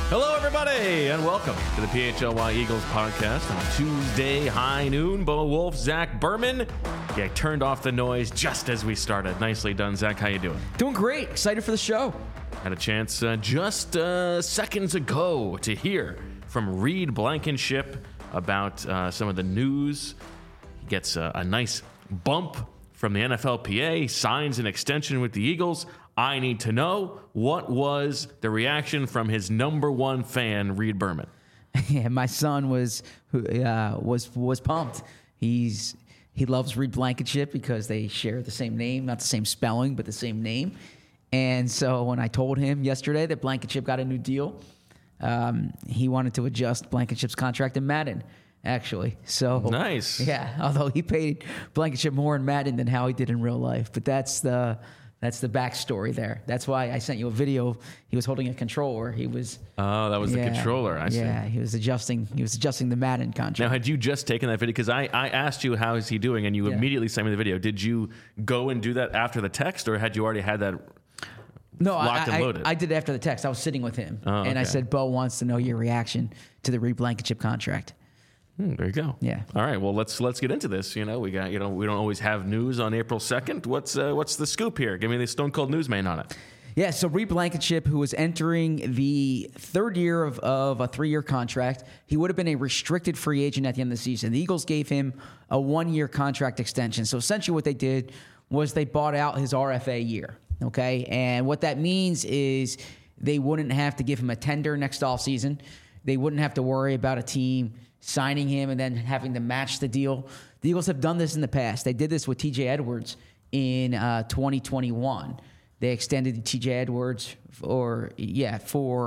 Hello, everybody, and welcome to the PHLY Eagles podcast on Tuesday high noon. Bo Wolf, Zach Berman. Yeah, I turned off the noise just as we started. Nicely done, Zach. How you doing? Doing great. Excited for the show. Had a chance just seconds ago to hear from Reed Blankenship about some of the news. He gets a nice bump from the NFLPA, signs an extension with the Eagles. I need to know, what was the reaction from his number one fan, Reed Berman? Yeah, my son was pumped. He loves Reed Blankenship because they share the same name, not the same spelling, but the same name. And so when I told him yesterday that Blankenship got a new deal, he wanted to adjust Blankenship's contract in Madden, actually. So nice. Yeah, although he paid Blankenship more in Madden than how he did in real life. But that's the backstory there. That's why I sent you a video. He was holding a controller. He was. Oh, that was the controller. I see. Yeah, he was adjusting the Madden contract. Now, had you just taken that video? Because I asked you, how is he doing? And you immediately sent me the video. Did you go and do that after the text, or had you already had that locked and loaded? I did it after the text. I was sitting with him. And I said, Bo wants to know your reaction to the Reed Blankenship contract. There you go. Yeah. All right. Well, let's get into this. We don't always have news on April 2nd. What's the scoop here? Give me the Stone Cold Newsman on it. Yeah. So Reed Blankenship, who was entering the third year of a 3-year contract, he would have been a restricted free agent at the end of the season. The Eagles gave him a 1-year contract extension. So essentially, what they did was they bought out his RFA year. Okay, and what that means is they wouldn't have to give him a tender next offseason. They wouldn't have to worry about a team signing him and then having to match the deal. The Eagles have done this in the past. They did this with T.J. Edwards in 2021. They extended T.J. Edwards they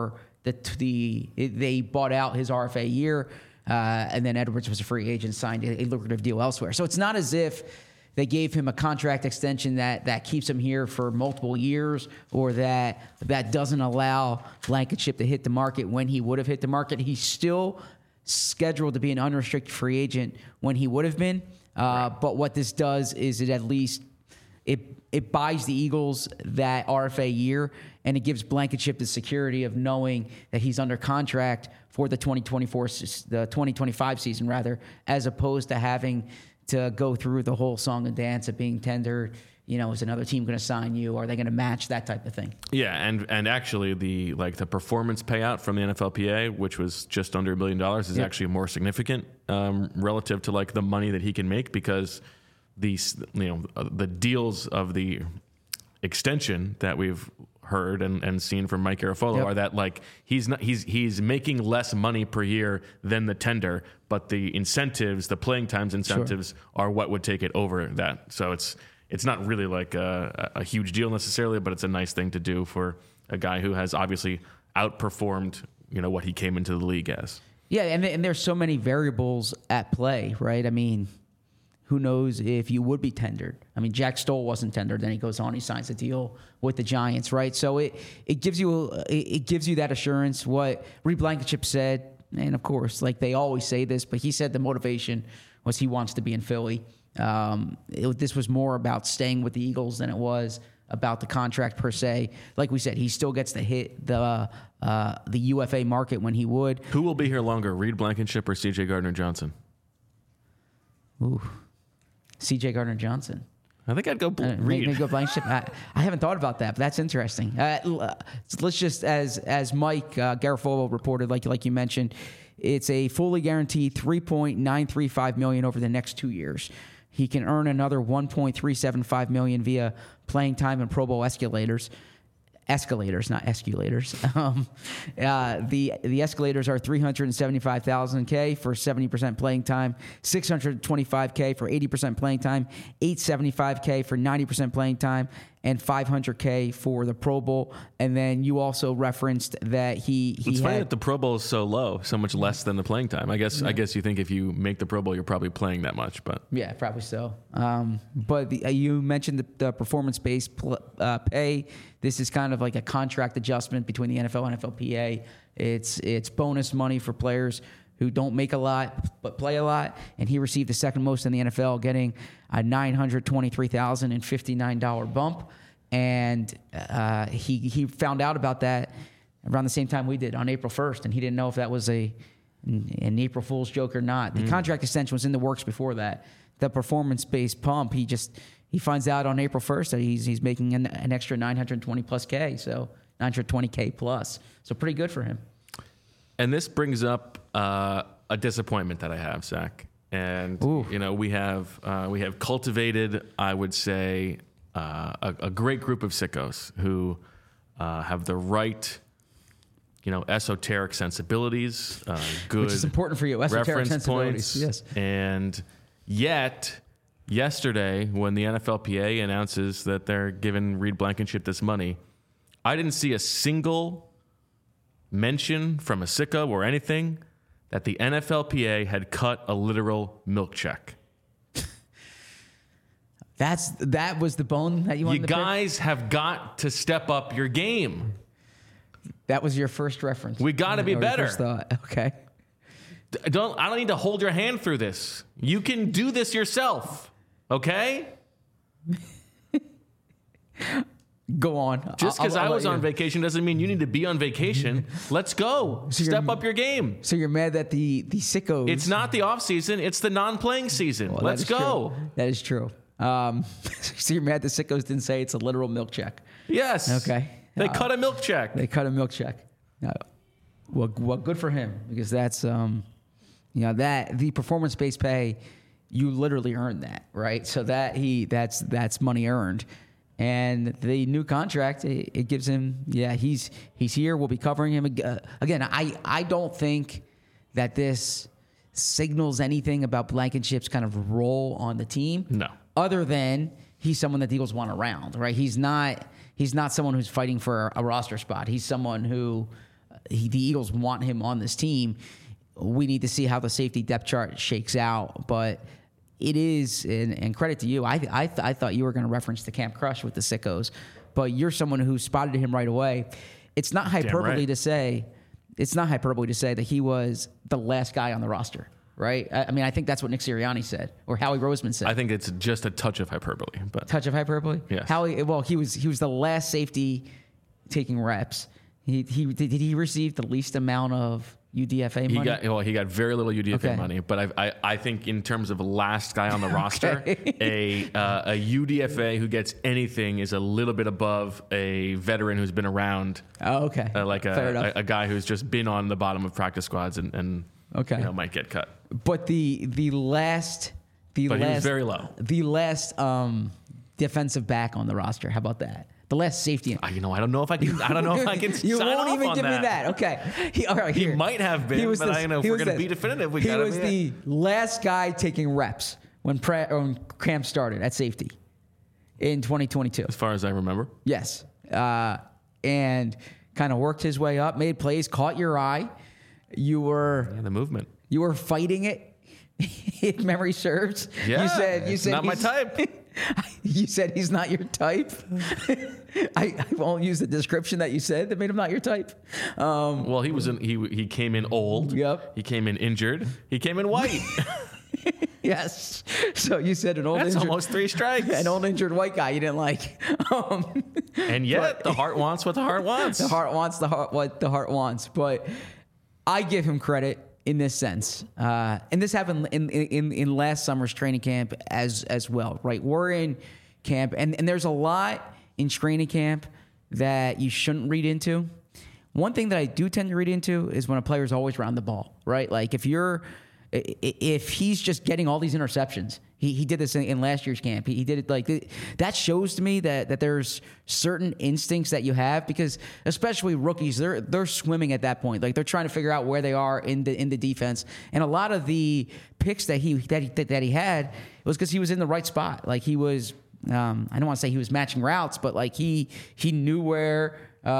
bought out his RFA year, and then Edwards was a free agent, signed a lucrative deal elsewhere. So it's not as if they gave him a contract extension that keeps him here for multiple years, or that doesn't allow Blankenship to hit the market when he would have hit the market. He's still scheduled to be an unrestricted free agent when he would have been. But what this does is it at least it buys the Eagles that RFA year, and it gives Blankenship the security of knowing that he's under contract for the 2025 season rather, as opposed to having to go through the whole song and dance of being tendered. Is another team going to sign you? Are they going to match, that type of thing? Yeah, and actually the performance payout from the NFLPA, which was just under $1 million, is actually more significant relative to the money that he can make, because the deals of the extension that we've heard and seen from Mike Garafolo are that he's making less money per year than the tender, but the incentives, the playing times incentives, are what would take it over that. So it's not really a huge deal necessarily, but it's a nice thing to do for a guy who has obviously outperformed what he came into the league as. Yeah, and there's so many variables at play, right? I mean, who knows if you would be tendered? I mean, Jack Stoll wasn't tendered. Then he goes on, he signs a deal with the Giants, right? So it gives you that assurance. What Reed Blankenship said, and of course, they always say this, but he said the motivation was he wants to be in Philly. This was more about staying with the Eagles than it was about the contract per se. Like we said, he still gets to hit the UFA market when he would. Who will be here longer, Reed Blankenship or C.J. Gardner-Johnson? Ooh. C.J. Gardner-Johnson. I think I'd go Reed. Maybe go Blankenship. I haven't thought about that, but that's interesting. Let's just, as Mike Garafolo reported, like you mentioned, it's a fully guaranteed $3.935 million over the next 2 years. He can earn another $1.375 million via playing time and Pro Bowl escalators. Escalators, not escalators. The escalators are $375,000 for 70% playing time, $625,000 for 80% playing time, $875,000 for 90% playing time, and $500,000 for the Pro Bowl. And then you also referenced that It's funny that the Pro Bowl is so low, so much less than the playing time. I guess you think if you make the Pro Bowl, you're probably playing that much, but yeah, probably so. But you mentioned the performance-based pay. This is kind of like a contract adjustment between the NFL and NFLPA. It's bonus money for players who don't make a lot but play a lot, and he received the second most in the NFL, getting a $923,059 bump. And he found out about that around the same time we did on April 1st, and he didn't know if that was an April Fool's joke or not. The contract extension was in the works before that. The performance-based pump, he finds out on April 1st that he's making an extra 920 plus K, so 920K plus. So pretty good for him. And this brings up a disappointment that I have, Zach. And we have cultivated, I would say, a great group of sickos who have the right, esoteric sensibilities, good, which is important for you. Esoteric reference sensibilities, points, yes. And yet, yesterday, when the NFLPA announces that they're giving Reed Blankenship this money, I didn't see a single mention from a sicko or anything that the NFLPA had cut a literal milk check. That was the bone that you wanted to pick? You guys have got to step up your game. That was your first reference. We got to be better. First thought. Okay. I don't need to hold your hand through this. You can do this yourself. Okay? Go on. Just because I was on vacation doesn't mean you need to be on vacation. Let's go. So step up your game. So you're mad that the sickos... It's not the off season. It's the non-playing season. Well, Let's go. True. That is true. So you're mad the sickos didn't say it's a literal milk check. Yes. Okay. They cut a milk check. They cut a milk check. Well, good for him, because that's that the performance-based pay, you literally earned that, right? So that's money earned. And the new contract, it gives him, he's here. We'll be covering him again. I don't think that this signals anything about Blankenship's kind of role on the team. No. Other than he's someone that the Eagles want around, right? He's not someone who's fighting for a roster spot. He's someone who the Eagles want him on this team. We need to see how the safety depth chart shakes out, but it is, and credit to you. I thought you were going to reference the Camp Crush with the sickos, but you're someone who spotted him right away. It's not hyperbole to say that he was the last guy on the roster, right? I mean, I think that's what Nick Sirianni said, or Howie Roseman said. I think it's just a touch of hyperbole, but touch of hyperbole. Yes. He was the last safety taking reps. Did he receive the least amount of UDFA money? He got very little UDFA money, but I think in terms of last guy on the roster, a UDFA who gets anything is a little bit above a veteran who's been around. Oh, okay. Like a guy who's just been on the bottom of practice squads and might get cut. But the last he was very low. The last defensive back on the roster. How about that? The last safety. I don't know if I can. I don't know if I can. You sign won't off even on give me that. Okay. He might have been, but if we're going to be definitive, we got to be. He was the last guy taking reps when Camp started at safety in 2022. As far as I remember. Yes. And kind of worked his way up, made plays, caught your eye. You were the movement. You were fighting it. If memory serves. Yeah. You said not my type. You said he's not your type. I won't use the description that you said that made him not your type. Well, he came in old. Yep. He came in injured. He came in white. Yes. So you said an old. That's injured, almost 3 strikes. An old injured white guy you didn't like. And yet the heart wants what the heart wants. The heart wants what the heart wants. But I give him credit in this sense, and this happened in last summer's training camp as well, right? We're in camp, and there's a lot in training camp that you shouldn't read into. One thing that I do tend to read into is when a player's always around the ball, right? Like if he's just getting all these interceptions, he did this in last year's camp. He did it that shows to me that there's certain instincts that you have, because especially rookies, they're swimming at that point. Like they're trying to figure out where they are in the defense. And a lot of the picks that he had was because he was in the right spot. Like he was, I don't want to say he was matching routes, but like he knew where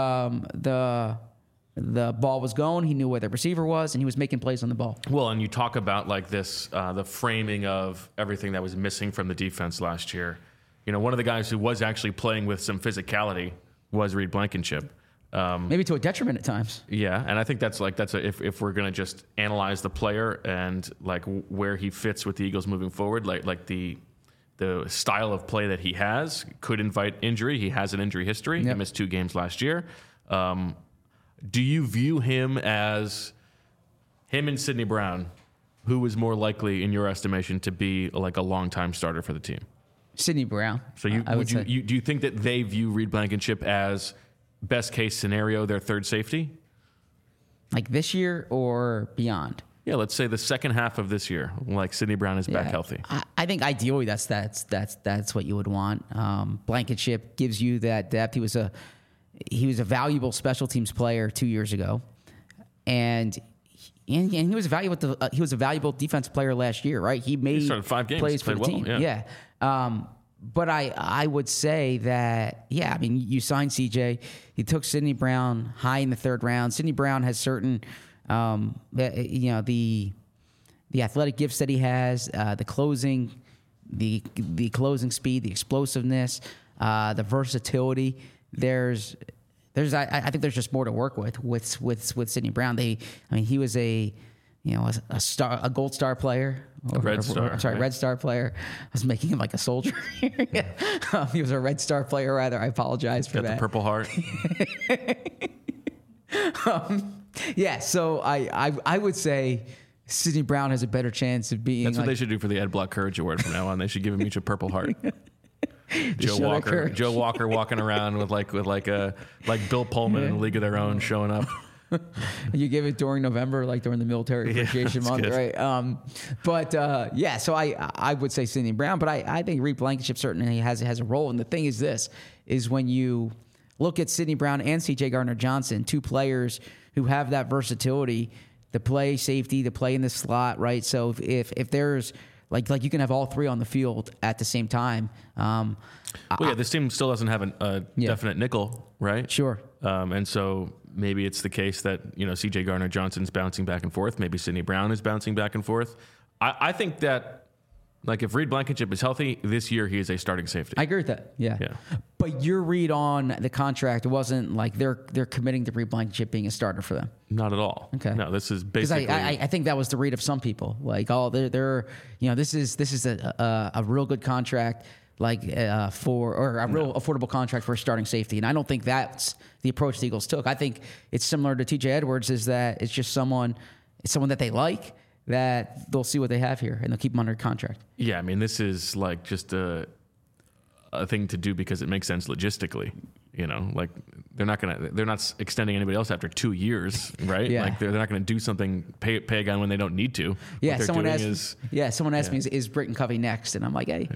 the ball was going. He knew where the receiver was, and he was making plays on the ball. Well, and you talk about like this, the framing of everything that was missing from the defense last year. One of the guys who was actually playing with some physicality was Reed Blankenship. Maybe to a detriment at times. Yeah, and I think if we're gonna just analyze the player and like where he fits with the Eagles moving forward, like the style of play that he has could invite injury. He has an injury history. Yep. He missed 2 games last year. Do you view him as him and Sidney Brown, who is more likely, in your estimation, to be like a long-time starter for the team? Sidney Brown. So do you think that they view Reed Blankenship as best case scenario, their third safety? Like this year or beyond? Yeah, let's say the second half of this year, like Sidney Brown is back healthy. I think ideally that's what you would want. Blankenship gives you that depth. He was a valuable special teams player 2 years ago, and he was a valuable defensive player last year, right? He started 5 games, plays for the team. Yeah. But I would say that, I mean, you signed CJ. You took Sidney Brown high in the 3rd round. Sidney Brown has certain, the athletic gifts that he has, the closing speed, the explosiveness, the versatility. I think there's just more to work with Sidney Brown. He was a gold star player. Red Star player. I was making him like a soldier. He was a Red Star player, rather. I apologize for that. Got the Purple Heart. So I would say Sidney Brown has a better chance of being. That's what they should do for the Ed Block Courage Award from now on. They should give him each a Purple Heart. Joe Walker walking around with Bill Pullman in a League of Their Own showing up. You give it during November, like during the Military Appreciation Month, good. Right? So I would say Sidney Brown, but I think Reed Blankenship certainly has a role. And the thing is when you look at Sidney Brown and C.J. Gardner-Johnson, 2 players who have that versatility to play safety, to play in the slot, right? So if there's like you can have all 3 on the field at the same time. This team still doesn't have a definite nickel, right? Sure. And so maybe it's the case that, C.J. Gardner-Johnson's bouncing back and forth. Maybe Sidney Brown is bouncing back and forth. I think that, if Reed Blankenship is healthy, this year he is a starting safety. I agree with that. Yeah. But your read on the contract wasn't like they're committing to Reed Blankenship being a starter for them. Not at all. Okay. No, this is basically. I think that was the read of some people. This is a real good contract. Real affordable contract for a starting safety. And I don't think that's the approach the Eagles took. I think it's similar to TJ Edwards, is that it's just someone that they like, that they'll see what they have here and they'll keep him under contract. Yeah, I mean, this is just a thing to do because it makes sense logistically. They're not extending anybody else after 2 years, right? Yeah. They're not going to do something, pay a guy when they don't need to. Yeah, someone asked me, is Britton Covey next? And I'm like, hey.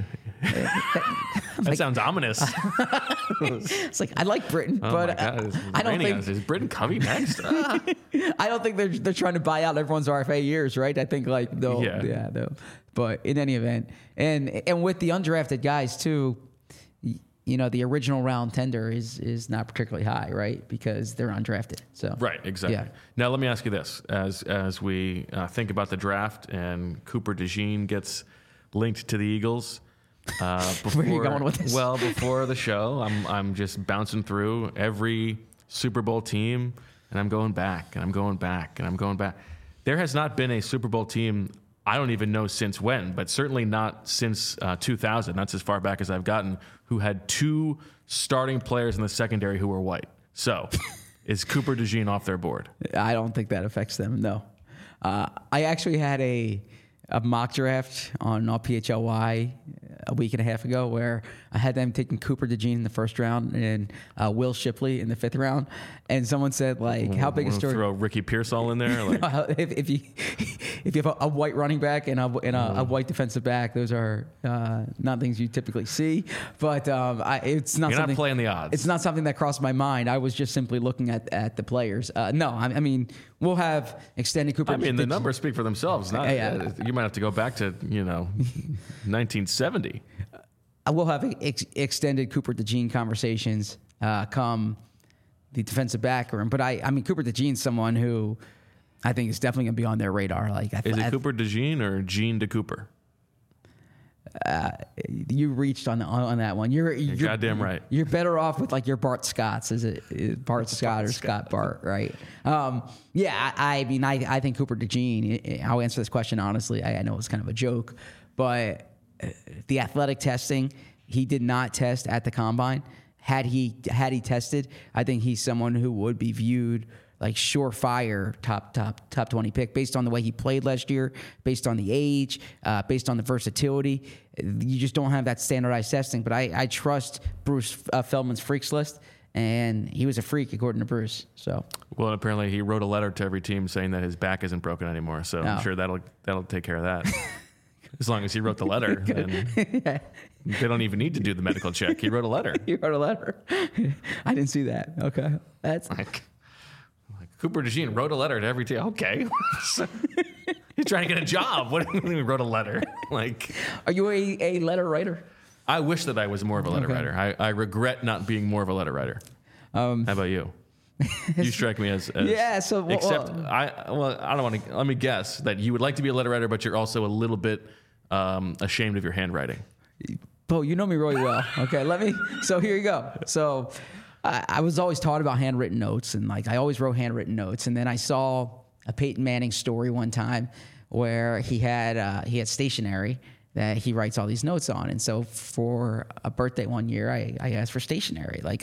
That sounds ominous. It's like, I like Britton, but I don't think... Is Britton Covey next? I don't think they're trying to buy out everyone's RFA years, right? I think they'll. But in any event, and with the undrafted guys too, the original round tender is not particularly high, right? Because they're undrafted. So right, exactly. Yeah. Now let me ask you this: as we think about the draft and Cooper DeJean gets linked to the Eagles. Where are you going with this? Well, before the show, I'm just bouncing through every Super Bowl team, and I'm going back, and I'm going back, and I'm going back. There has not been a Super Bowl team, I don't even know since when, but certainly not since 2000. That's as far back as I've gotten, who had 2 starting players in the secondary who were white. So, is Cooper DeJean off their board? I don't think that affects them, no. I actually had a mock draft on PHLY a week and a half ago where I had them taking Cooper DeJean in the 1st round and Will Shipley in the 5th round. And someone said, how big a story? Throw Ricky Pearsall in there? If you have a white running back and a white defensive back, those are not things you typically see. But it's not. You're something, not playing the odds. It's not something that crossed my mind. I was just simply looking at the players. No, I mean, we'll have extended Cooper. I mean, the numbers speak for themselves. You might have to go back to 1970. We'll have extended Cooper DeJean conversations come the defensive back room. But I mean, Cooper DeJean's someone who I think is definitely going to be on their radar. Is it Cooper DeJean or Gene DeCooper? You reached on that one. You're goddamn right. You're better off with your Bart Scotts. Is it Bart Scott or Scott Bart? Right. I mean, I think Cooper DeJean. I'll answer this question honestly. I know it's kind of a joke, but the athletic testing, he did not test at the combine. Had he tested, I think he's someone who would be viewed like surefire top 20 pick based on the way he played last year, based on the age, based on the versatility. You just don't have that standardized testing. But I trust Bruce Feldman's freaks list, and he was a freak according to Bruce. So well, apparently he wrote a letter to every team saying that his back isn't broken anymore. So I'm sure that'll take care of that. As long as he wrote the letter, then they don't even need to do the medical check. He wrote a letter. He wrote a letter. I didn't see that. Okay, that's like Cooper DeJean wrote a letter to every team. Okay, he's trying to get a job. What do you mean he wrote a letter? Like, are you a letter writer? I wish that I was more of a letter writer. I regret not being more of a letter writer. How about you? You strike me as yeah. So except I don't want to. Let me guess that you would like to be a letter writer, but you're also a little bit ashamed of your handwriting. Bo, you know me really well. Okay, so here you go. So I was always taught about handwritten notes, and like I always wrote handwritten notes. And then I saw a Peyton Manning story one time where he had stationery that he writes all these notes on. And so for a birthday one year, I asked for stationery. Like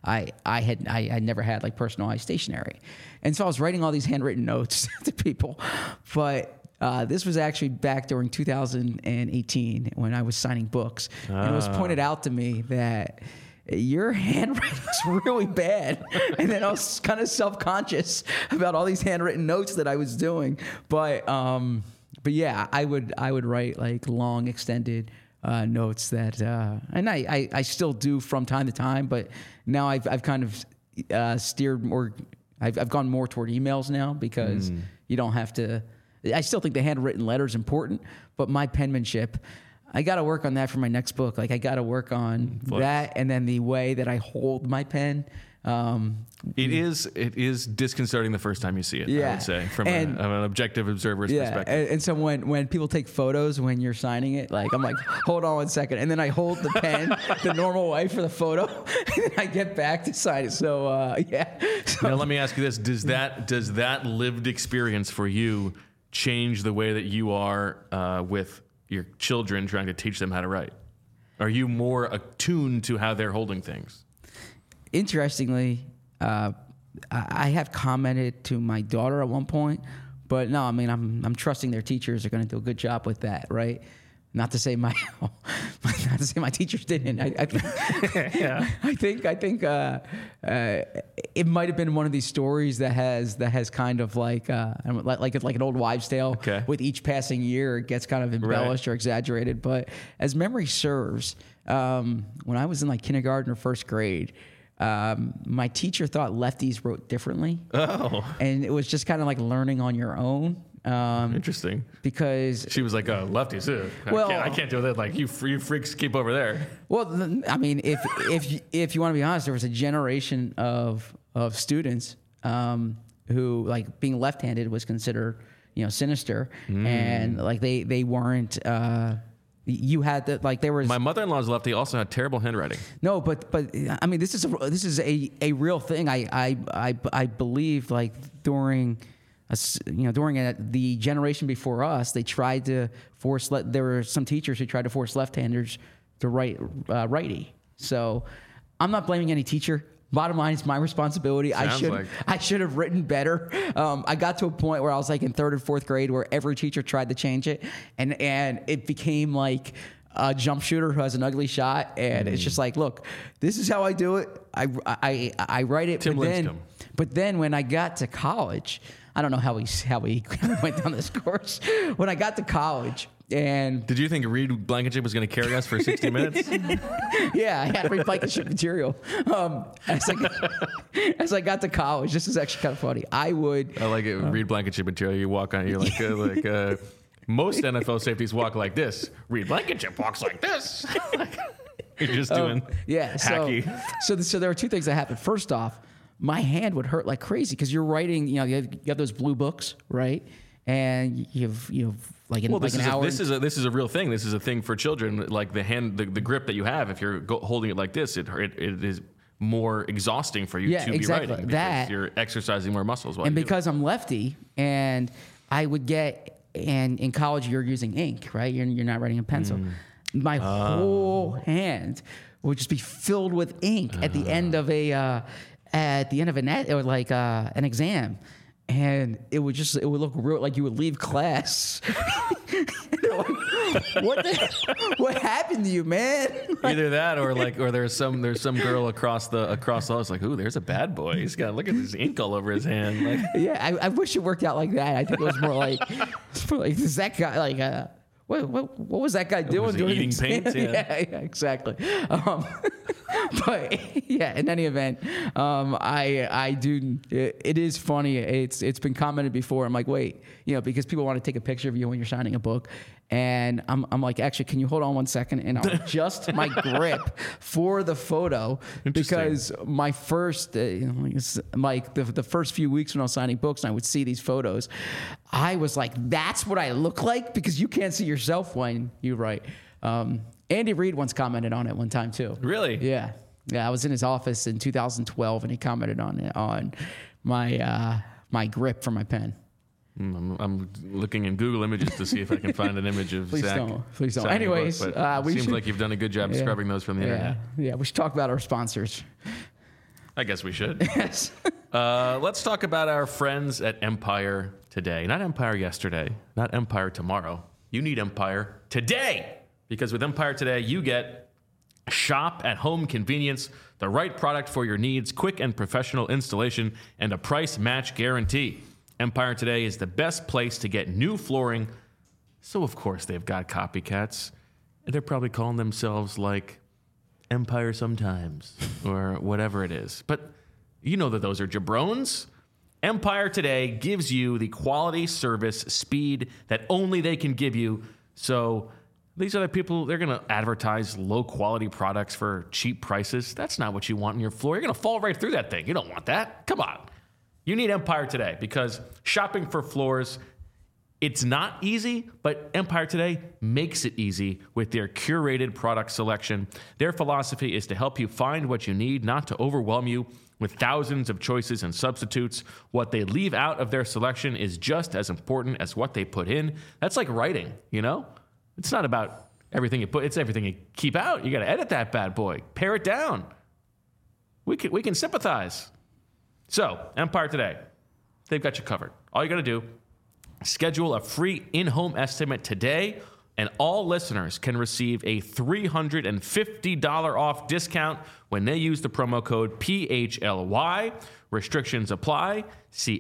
I never had like personalized stationery. And so I was writing all these handwritten notes to people. But this was actually back during 2018 when I was signing books. And it was pointed out to me that your handwriting is really bad. And then I was kind of self-conscious about all these handwritten notes that I was doing. But yeah, I would write like long extended notes that, and I still do from time to time, but now I've kind of steered more. I've gone more toward emails now because you don't have to. I still think the handwritten letter is important, but my penmanship, I got to work on that for my next book. Like I got to work on that, and then the way that I hold my pen. It is disconcerting the first time you see it. Yeah. I would say from an objective observer's perspective. And so when people take photos when you're signing it, like I'm like, hold on 1 second, and then I hold the pen the normal way for the photo, and then I get back to sign it. So yeah. So, now let me ask you this: Does that lived experience for you change the way that you are with your children, trying to teach them how to write? Are you more attuned to how they're holding things? Interestingly, I have commented to my daughter at one point, but no, I mean, I'm trusting their teachers are going to do a good job with that, right? Not to say my teachers didn't. I think it might have been one of these stories that has kind of like an old wives' tale. Okay. With each passing year, it gets kind of embellished or exaggerated. But as memory serves, when I was in like kindergarten or first grade, my teacher thought lefties wrote differently. Oh. And it was just kind of like learning on your own. Interesting. Because she was like, "Oh, lefties, I can't do that. Like you freaks, keep over there." Well, I mean, if you want to be honest, there was a generation of students who like being left-handed was considered sinister, and like they weren't. You had to like there was. My mother-in-law's lefty also had terrible handwriting. No, but I mean this is a real thing. I believe like during the generation before us, they tried to force. There were some teachers who tried to force left-handers to write righty. So I'm not blaming any teacher. Bottom line, it's my responsibility. I should have written better. I got to a point where I was like in third and fourth grade where every teacher tried to change it, and it became like a jump shooter who has an ugly shot, and it's just like, look, this is how I do it. I write it. Tim Lincecum. But then when I got to college, I don't know how we went down this course. When I got to college. And did you think Reed Blankenship was going to carry us for 60 minutes? Yeah, I had Reed Blankenship material. As I got to college, this is actually kind of funny. I like it. Reed Blankenship material. You walk on. You're like most NFL safeties walk like this. Reed Blankenship walks like this. You're just doing hacky. So there were two things that happened. First off, my hand would hurt like crazy because you're writing. You have those blue books, right? And you've like an hour. This is a real thing. This is a thing for children. Like the grip that you have, if you're holding it like this, it is more exhausting for you to be writing because you're exercising more muscles. And because I'm lefty, and I would get, and in college you're using ink, right? You're not writing in pencil. My whole hand would just be filled with ink at the end of at the end of an exam, and it would look real like you would leave class. What happened to you, man? Either that or there's some girl across the hall. It's like, ooh, there's a bad boy. He's got, look at this ink all over his hand. Like, yeah, I wish it worked out like that. I think it was more like is that guy like what was that guy doing? Was he eating paint? Yeah, exactly. But yeah, in any event, I do. It is funny. It's been commented before. I'm like, wait, because people want to take a picture of you when you're signing a book, and I'm like, actually, can you hold on 1 second? And I'll adjust my grip for the photo because my first, the first few weeks when I was signing books, and I would see these photos, I was like, that's what I look like, because you can't see yourself when you write. Andy Reid once commented on it one time too. Really? Yeah. I was in his office in 2012, and he commented on my my grip for my pen. I'm looking in Google Images to see if I can find an image of Zach. Please don't. Anyways, seems like you've done a good job scrubbing those from the internet. Yeah, we should talk about our sponsors. I guess we should. Yes. Let's talk about our friends at Empire today. Not Empire yesterday, not Empire tomorrow. You need Empire today, because with Empire today, you get shop at home convenience, the right product for your needs, quick and professional installation, and a price match guarantee. Empire today is the best place to get new flooring. So, of course, they've got copycats. And they're probably calling themselves like Empire sometimes or whatever it is. But you know that those are jabrones. Empire today gives you the quality, service, speed that only they can give you. So these other people, they're going to advertise low-quality products for cheap prices. That's not what you want in your floor. You're going to fall right through that thing. You don't want that. Come on. You need Empire today, because shopping for floors, it's not easy, but Empire today makes it easy with their curated product selection. Their philosophy is to help you find what you need, not to overwhelm you with thousands of choices and substitutes. What they leave out of their selection is just as important as what they put in. That's like writing, It's not about everything you put, it's everything you keep out. You got to edit that bad boy, pare it down. We can sympathize. So, Empire today, they've got you covered. All you got to do, schedule a free in-home estimate today, and all listeners can receive a $350 off discount when they use the promo code PHLY. Restrictions apply. See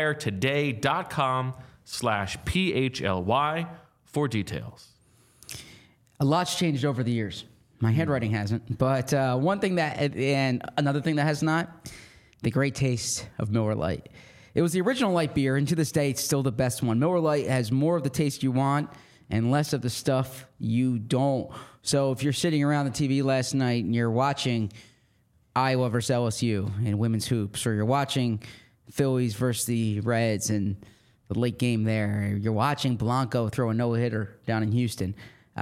empiretoday.com/PHLY for details. A lot's changed over the years. My handwriting hasn't, but one thing and another thing that has not, the great taste of Miller Lite. It was the original light beer, and to this day, it's still the best one. Miller Lite has more of the taste you want and less of the stuff you don't. So if you're sitting around the TV last night and you're watching Iowa versus LSU in women's hoops, or you're watching Phillies versus the Reds and the late game there, you're watching Blanco throw a no-hitter down in Houston,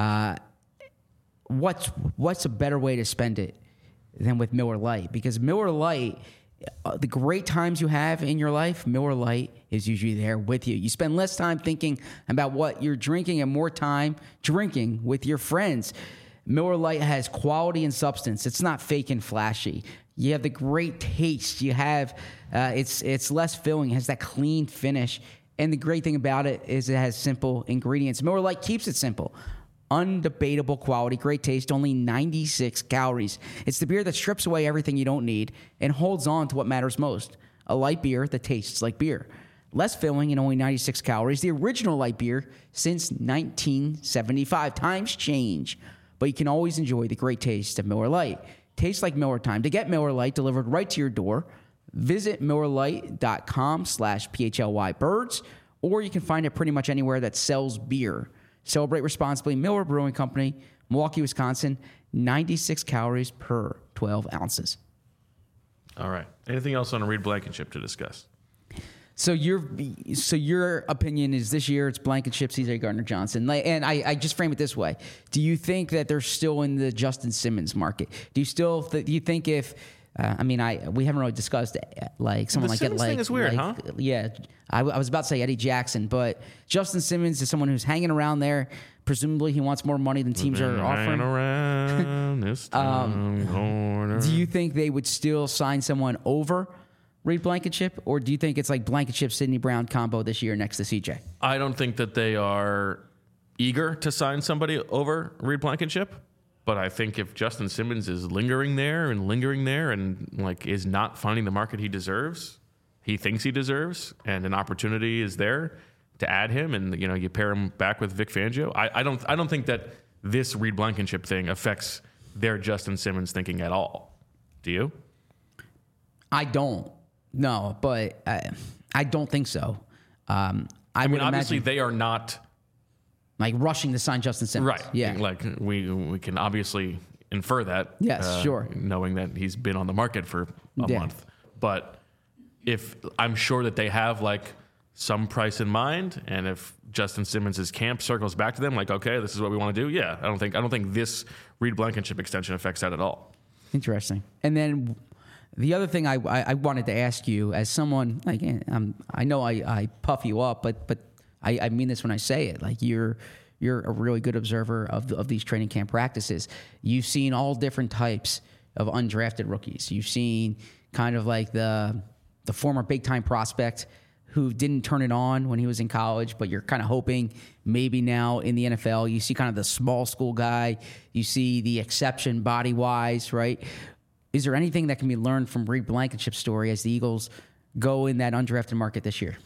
what's a better way to spend it than with Miller Lite? Because Miller Lite, the great times you have in your life, Miller Lite is usually there with you. You spend less time thinking about what you're drinking and more time drinking with your friends. Miller Lite has quality and substance. It's not fake and flashy. You have the great taste. You have it's less filling. It has that clean finish. And the great thing about it is it has simple ingredients. Miller Lite keeps it simple. Undebatable quality, great taste, only 96 calories. It's the beer that strips away everything you don't need and holds on to what matters most. A light beer that tastes like beer. Less filling and only 96 calories. The original light beer since 1975. Times change, but you can always enjoy the great taste of Miller Lite. Tastes like Miller time. To get Miller Lite delivered right to your door, visit MillerLite.com/PHLYBirds, or you can find it pretty much anywhere that sells beer. Celebrate responsibly. Miller Brewing Company, Milwaukee, Wisconsin. 96 calories per 12 ounces. All right. Anything else on Reed Blankenship to discuss? So your opinion is this year it's Blankenship, C.J. Gardner-Johnson. And I just frame it this way. Do you think that they're still in the Justin Simmons market? Do you think if I mean, we haven't really discussed like someone The like Simmons thing is weird, huh? Yeah, I was about to say Eddie Jackson, but Justin Simmons is someone who's hanging around there. Presumably, he wants more money than teams are offering. Around this corner. Do you think they would still sign someone over Reed Blankenship, or do you think it's like Blankenship Sidney Brown combo this year next to CJ? I don't think that they are eager to sign somebody over Reed Blankenship, but I think if Justin Simmons is lingering there and like is not finding the market he deserves, he thinks he deserves, and an opportunity is there to add him, and you pair him back with Vic Fangio. I don't think that this Reed Blankenship thing affects their Justin Simmons thinking at all. Do you? I don't. No, but I don't think so. I mean, obviously they are not like rushing to sign Justin Simmons. Right. Yeah. Like we can obviously infer that. Yes, sure. Knowing that he's been on the market for a month. But if I'm sure that they have like some price in mind, and if Justin Simmons' camp circles back to them, like, okay, this is what we want to do. Yeah. I don't think this Reed Blankenship extension affects that at all. Interesting. And then the other thing I wanted to ask you, as someone like I know I puff you up, but I mean this when I say it. Like you're a really good observer of these training camp practices. You've seen all different types of undrafted rookies. You've seen kind of like the former big time prospect who didn't turn it on when he was in college, but you're kind of hoping maybe now in the NFL. You see kind of the small school guy. You see the exception body wise, right? Is there anything that can be learned from Reed Blankenship's story as the Eagles go in that undrafted market this year?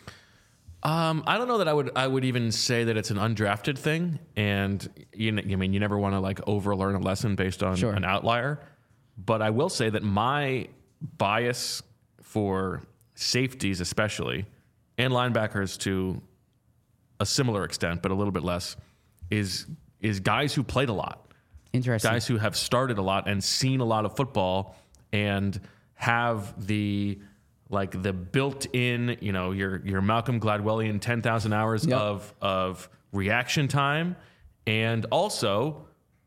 I don't know that I would even say that it's an undrafted thing, and you never want to like overlearn a lesson based on an outlier. But I will say that my bias for safeties, especially, and linebackers to a similar extent, but a little bit less, is guys who played a lot. Interesting. Guys who have started a lot and seen a lot of football and have the built-in, your Malcolm Gladwellian 10,000 hours of reaction time, and also,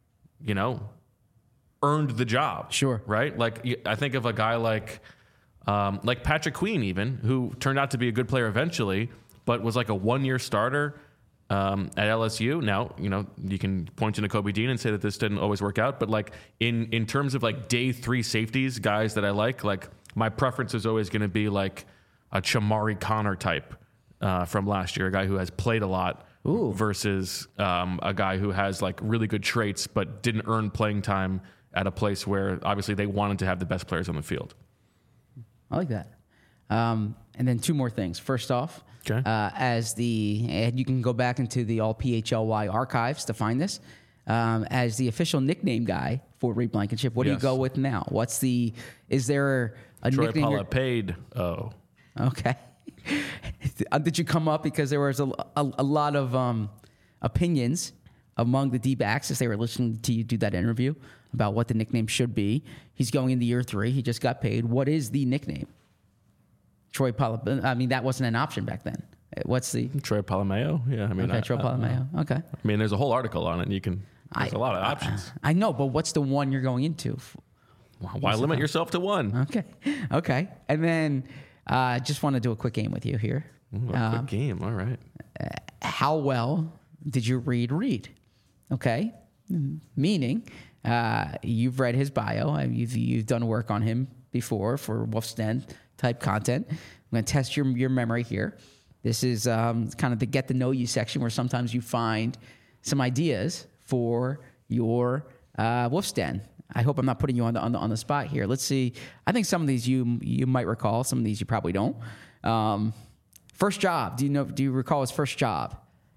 earned the job. Sure. Right? Like, I think of a guy like Patrick Queen, even, who turned out to be a good player eventually, but was like a one-year starter at LSU. Now, you can point to Nakobe Dean and say that this didn't always work out, but like in terms of like day 3 safeties, guys that I like my preference is always going to be like a Chamari Connor type from last year, a guy who has played a lot. Ooh. Versus a guy who has like really good traits but didn't earn playing time at a place where obviously they wanted to have the best players on the field. I like that. And then 2 more things. First off, okay. And you can go back into the All PHLY archives to find this. As the official nickname guy for Reed Blankenship, what do you go with now? Is there a Troy nickname? Polamalu paid. Oh. Okay. Did you come up because there was a lot of opinions among the D-backs as they were listening to you do that interview about what the nickname should be? He's going into year 3. He just got paid. What is the nickname? Troy Polamalu. I mean, that wasn't an option back then. What's the Troy Polamalu? Yeah, I mean, okay, Troy Polamalu. Okay. I mean, there's a whole article on it. And there's a lot of options. I know, but what's the one you're going into? Why limit yourself to one? Okay. And then just want to do a quick game with you here. A quick game. All right. How well did you read? Okay. Meaning, you've read his bio. You've done work on him before for Wolf's Den type content. I'm going to test your memory here. This is kind of the get to know you section where sometimes you find some ideas for your Wolf's Den. I hope I'm not putting you on the spot here. Let's see. I think some of these you might recall. Some of these you probably don't. First job. Do you recall his first job?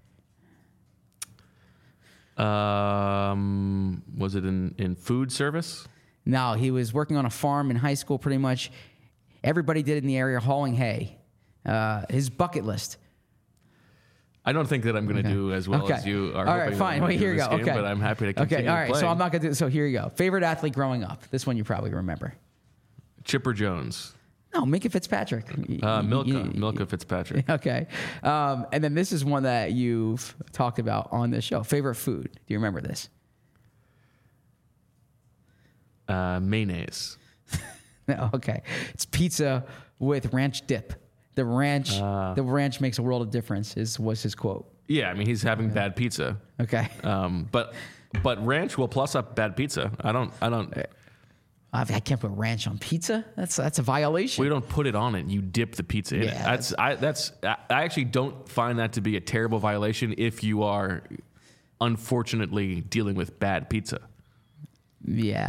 Was it in food service? No, he was working on a farm in high school. Pretty much everybody did in the area, hauling hay. His bucket list. I don't think that I'm going to do as well as you are. All right, fine. Well, here you go. Game, but I'm happy to continue. Okay, all right. Playing. So I'm not going to do. So here you go. Favorite athlete growing up. This one you probably remember. Chipper Jones. No, Minkah Fitzpatrick. Milka Fitzpatrick. Okay. And then this is one that you've talked about on this show. Favorite food. Do you remember this? Mayonnaise. No, okay. It's pizza with ranch dip. The ranch makes a world of difference. Was his quote. Yeah, I mean he's having bad pizza. Okay. But ranch will plus up bad pizza. I don't. I can't put ranch on pizza. That's a violation. We don't put it on it. You dip the pizza in it. I actually don't find that to be a terrible violation if you are unfortunately dealing with bad pizza. Yeah,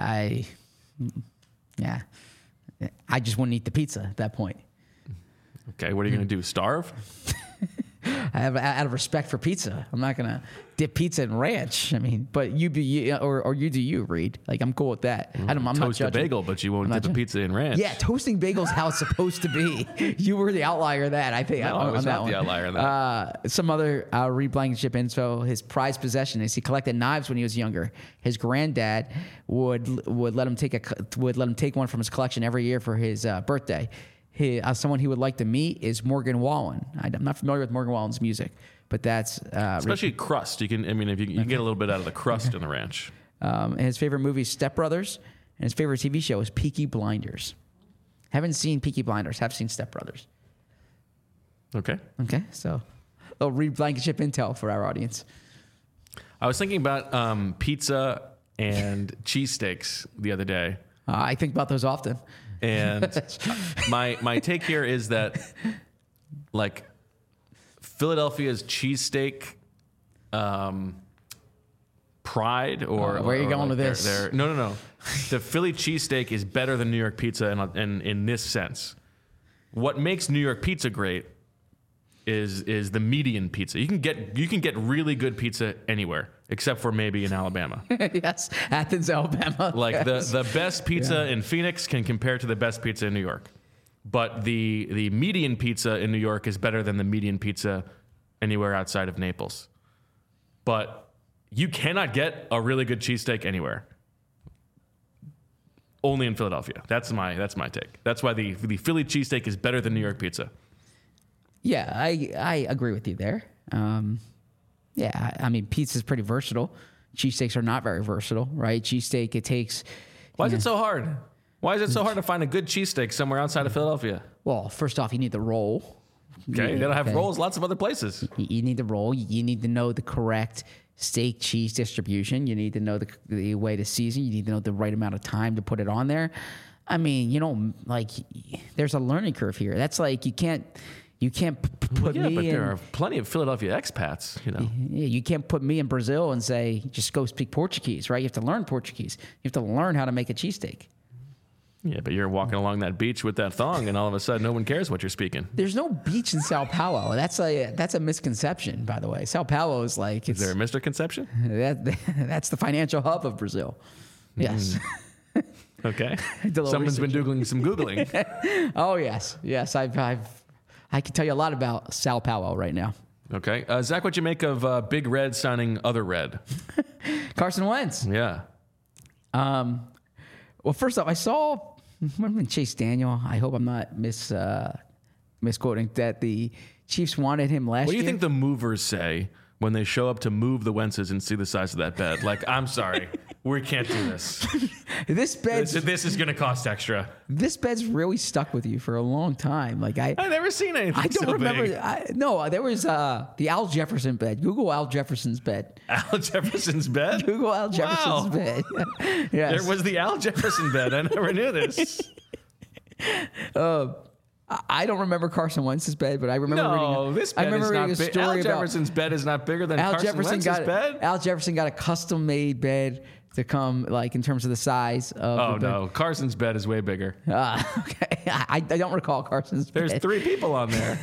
I just wouldn't eat the pizza at that point. Okay, what are you going to do? Starve? Out of respect for pizza, I'm not gonna dip pizza in ranch. I mean, but you do you, Reed. Like I'm cool with that. I'm not Toast judging. a bagel, but you won't dip a pizza in ranch. Yeah, toasting bagels how it's supposed to be. You were the outlier of that. I think. No, I was not the outlier of that. Some other Reed Blankenship info. His prized possession is he collected knives when he was younger. His granddad would let him take one from his collection every year for his birthday. Someone he would like to meet is Morgan Wallen. I'm not familiar with Morgan Wallen's music, but that's especially crust. You can get a little bit out of the crust in the ranch. And his favorite movie is Step Brothers, and his favorite TV show is Peaky Blinders. Haven't seen Peaky Blinders. Have seen Step Brothers. Okay. So, a Reed Blankenship intel for our audience. I was thinking about pizza and cheesesteaks the other day. I think about those often. And my take here is that, like, Philadelphia's cheesesteak pride, or where are you going with this? No. The Philly cheesesteak is better than New York pizza, in this sense. What makes New York pizza great is the median pizza. You can get really good pizza anywhere except for maybe in Alabama. Yes, Athens, Alabama. Like the best pizza in Phoenix can compare to the best pizza in New York. But the median pizza in New York is better than the median pizza anywhere outside of Naples. But you cannot get a really good cheesesteak anywhere. Only in Philadelphia. That's my take. That's why the Philly cheesesteak is better than New York pizza. Yeah, I agree with you there. Yeah, I mean, pizza's pretty versatile. Cheesesteaks are not very versatile, right? Cheesesteak, it takes... Why is it so hard? Why is it so hard to find a good cheesesteak somewhere outside of Philadelphia? Well, first off, you need the roll. Okay, you gotta have rolls lots of other places. You need the roll. You need to know the correct steak cheese distribution. You need to know the way to season. You need to know the right amount of time to put it on there. I mean, there's a learning curve here. That's like you can't put me but in. there are plenty of Philadelphia expats, Yeah, you can't put me in Brazil and say, just go speak Portuguese, right? You have to learn Portuguese. You have to learn how to make a cheesesteak. Yeah, but you're walking along that beach with that thong, and all of a sudden, no one cares what you're speaking. There's no beach in Sao Paulo. That's a misconception, by the way. Sao Paulo is like... Is there a misconception? That's the financial hub of Brazil. Yes. Okay. Someone's been doing some Googling. Oh, yes. Yes, I can tell you a lot about Sao Paulo right now. Okay. Zach, what you make of Big Red signing Other Red? Carson Wentz. Yeah. Well, first off, I saw Chase Daniel. I hope I'm not misquoting that the Chiefs wanted him last year. What do you think the movers say when they show up to move the Wentzes and see the size of that bed? Like, I'm sorry, we can't do this. This is going to cost extra. This bed's really stuck with you for a long time. Like I've never seen anything. I don't so remember. Big. There was the Al Jefferson bed. Google Al Jefferson's bed. Al Jefferson's bed. Google Al Jefferson's bed. Yes. There was the Al Jefferson bed. I never knew this. I don't remember Carson Wentz's bed, but I remember reading a story Al about Jefferson's bed is not bigger than Carson Wentz's bed. Al Jefferson got a custom-made bed to come, like, in terms of the size of the bed. No, Carson's bed is way bigger. Okay. I don't recall Carson's bed. There's 3 people on there.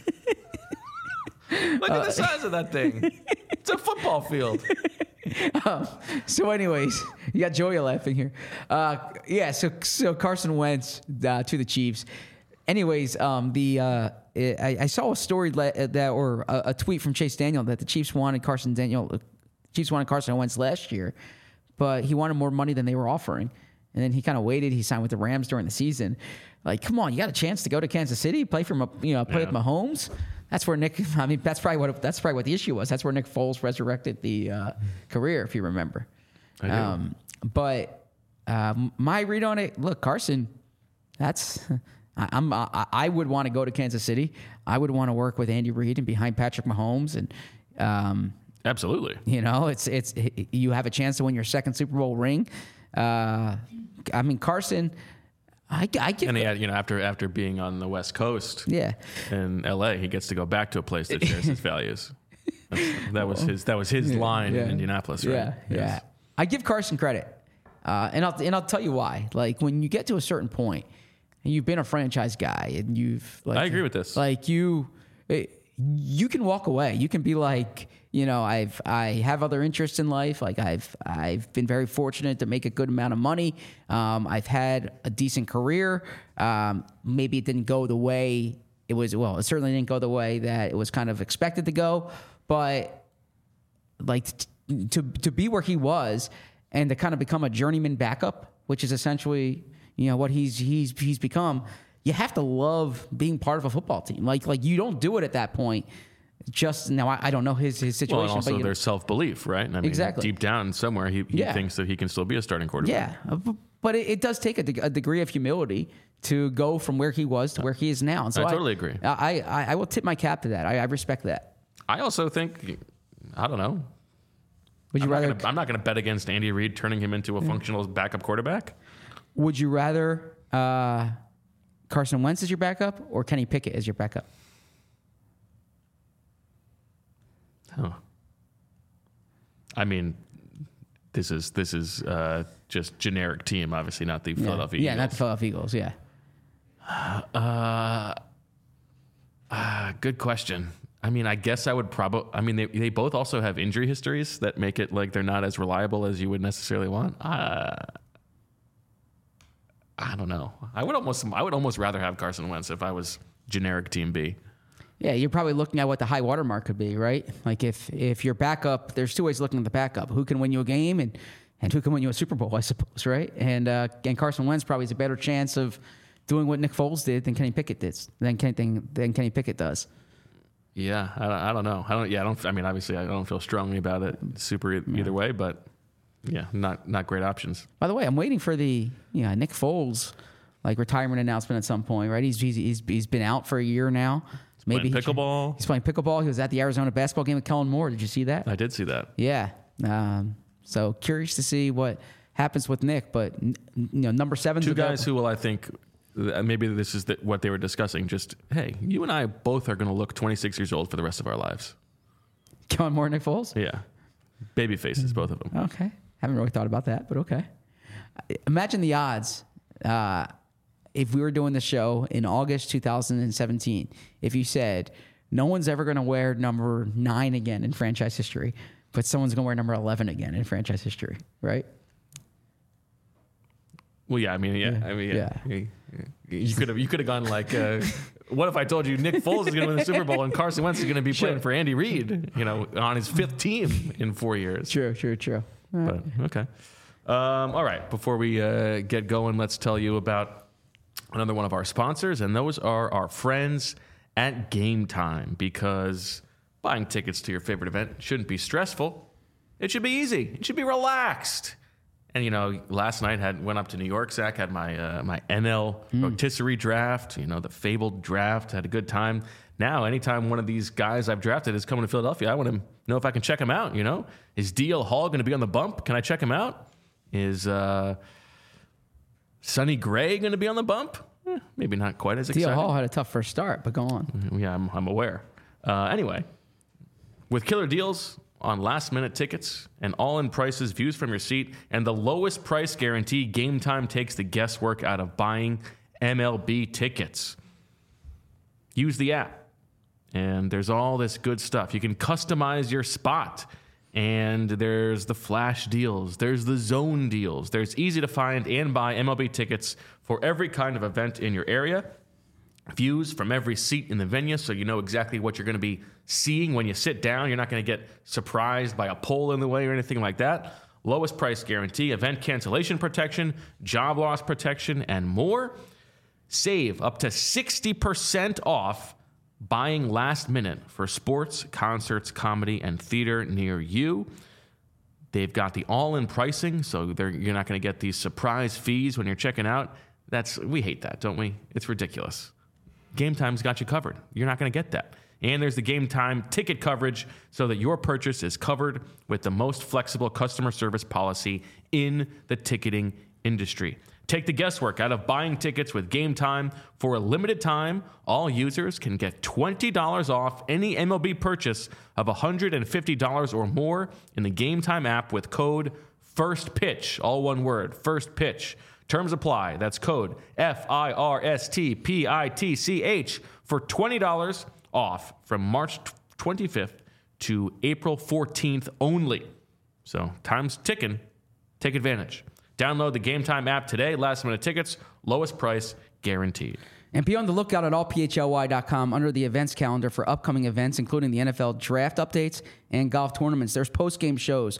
Look at the size of that thing. It's a football field. So anyways, you got Joey laughing here. So Carson Wentz to the Chiefs. Anyways, I saw a story or a tweet from Chase Daniel that the Chiefs wanted Carson Wentz last year, but he wanted more money than they were offering. And then he kind of waited. He signed with the Rams during the season. Like, come on, you got a chance to go to Kansas City, play with Mahomes. That's where that's probably what the issue was. That's where Nick Foles resurrected the career, if you remember. I do. But my read on it, look, Carson, I would want to go to Kansas City. I would want to work with Andy Reid and behind Patrick Mahomes, and Absolutely. you know, it's you have a chance to win your second Super Bowl ring. I mean, Carson, I give, And he had, after being on the West Coast, yeah, in LA, he gets to go back to a place that shares his values. That was his line in Indianapolis, right? Yeah, yeah. I give Carson credit, and I'll tell you why. Like when you get to a certain point, and you've been a franchise guy, and you've I agree with this. Like you can walk away. You can be like, I have other interests in life. Like I've been very fortunate to make a good amount of money. I've had a decent career. Maybe it didn't go the way it was. Well, it certainly didn't go the way that it was kind of expected to go. But like to be where he was and to kind of become a journeyman backup, which is essentially what he's become. You have to love being part of a football team. Like you don't do it at that point. Just now, I don't know his situation. Well, and also but there's self-belief, right? I mean, exactly. Deep down somewhere, he thinks that he can still be a starting quarterback. Yeah, but it does take a degree of humility to go from where he was to where he is now. And so I totally agree. I will tip my cap to that. I respect that. I also think, I don't know. Would you rather? I'm not going to bet against Andy Reid turning him into a functional backup quarterback. Would you rather Carson Wentz as your backup or Kenny Pickett as your backup? Huh. I mean, this is just generic team, obviously not the Philadelphia Eagles. Yeah, not the Philadelphia Eagles. Yeah. Good question. I mean, I guess I would probably. I mean, they both also have injury histories that make it like they're not as reliable as you would necessarily want. I don't know. I would almost rather have Carson Wentz if I was generic Team B. Yeah, you're probably looking at what the high water mark could be, right? Like if your backup, there's two ways of looking at the backup: who can win you a game and who can win you a Super Bowl, I suppose, right? And Carson Wentz probably has a better chance of doing what Nick Foles did than Kenny Pickett did. Than Kenny Pickett does. Yeah, I don't know. I mean, obviously, I don't feel strongly about it either way, but yeah, not great options. By the way, I'm waiting for the Nick Foles retirement announcement at some point, right? He's been out for a year now. Maybe pickleball. He's playing pickleball. He was at the Arizona basketball game with Kellen Moore. Did you see that? I did see that. Yeah. So curious to see what happens with Nick, but number 7. Two guys who will, I think. Maybe this is what they were discussing. Just, hey, you and I both are going to look 26 years old for the rest of our lives. Kellen Moore and Nick Foles? Yeah. Baby faces, both of them. Okay. Haven't really thought about that, but okay. Imagine the odds if we were doing the show in August 2017, if you said, no one's ever going to wear number 9 again in franchise history, but someone's going to wear number 11 again in franchise history, right? Well, yeah. I mean, yeah. You could have gone like, what if I told you Nick Foles is going to win the Super Bowl and Carson Wentz is going to be playing for Andy Reid, on his 5th team in 4 years? True. But, okay. All right. Before we get going, let's tell you about another one of our sponsors, and those are our friends at Game Time, because buying tickets to your favorite event shouldn't be stressful. It should be easy. It should be relaxed. And, last night went up to New York. Zach had my NL rotisserie draft, the fabled draft. Had a good time. Now, anytime one of these guys I've drafted is coming to Philadelphia, I want to know if I can check him out, Is DL Hall going to be on the bump? Can I check him out? Is Sonny Gray going to be on the bump? Maybe not quite as exciting. DL Hall had a tough first start, but go on. Yeah, I'm aware. Anyway, with killer deals on last-minute tickets and all-in prices, views from your seat, and the lowest price guarantee, Game Time takes the guesswork out of buying MLB tickets. Use the app, and there's all this good stuff. You can customize your spot, and there's the flash deals. There's the zone deals. There's easy-to-find and buy MLB tickets for every kind of event in your area. Views from every seat in the venue, so you know exactly what you're going to be seeing when you sit down. You're not going to get surprised by a pole in the way or anything like that. Lowest price guarantee, event cancellation protection, job loss protection, and more. Save up to 60% off buying last minute for sports, concerts, comedy, and theater near you. They've got the all-in pricing, so you're not going to get these surprise fees when you're checking out. We hate that, don't we? It's ridiculous. Game Time's got you covered. You're not going to get that. And there's the Game Time ticket coverage so that your purchase is covered with the most flexible customer service policy in the ticketing industry. Take the guesswork out of buying tickets with Game Time. For a limited time, all users can get $20 off any MLB purchase of $150 or more in the Game Time app with code FIRSTPITCH, all one word, FIRSTPITCH. Terms apply. That's code FIRSTPITCH for $20 off from March 25th to April 14th only. So time's ticking. Take advantage. Download the Game Time app today. Last minute tickets, lowest price guaranteed. And be on the lookout at allphly.com under the events calendar for upcoming events, including the NFL draft updates and golf tournaments. There's post-game shows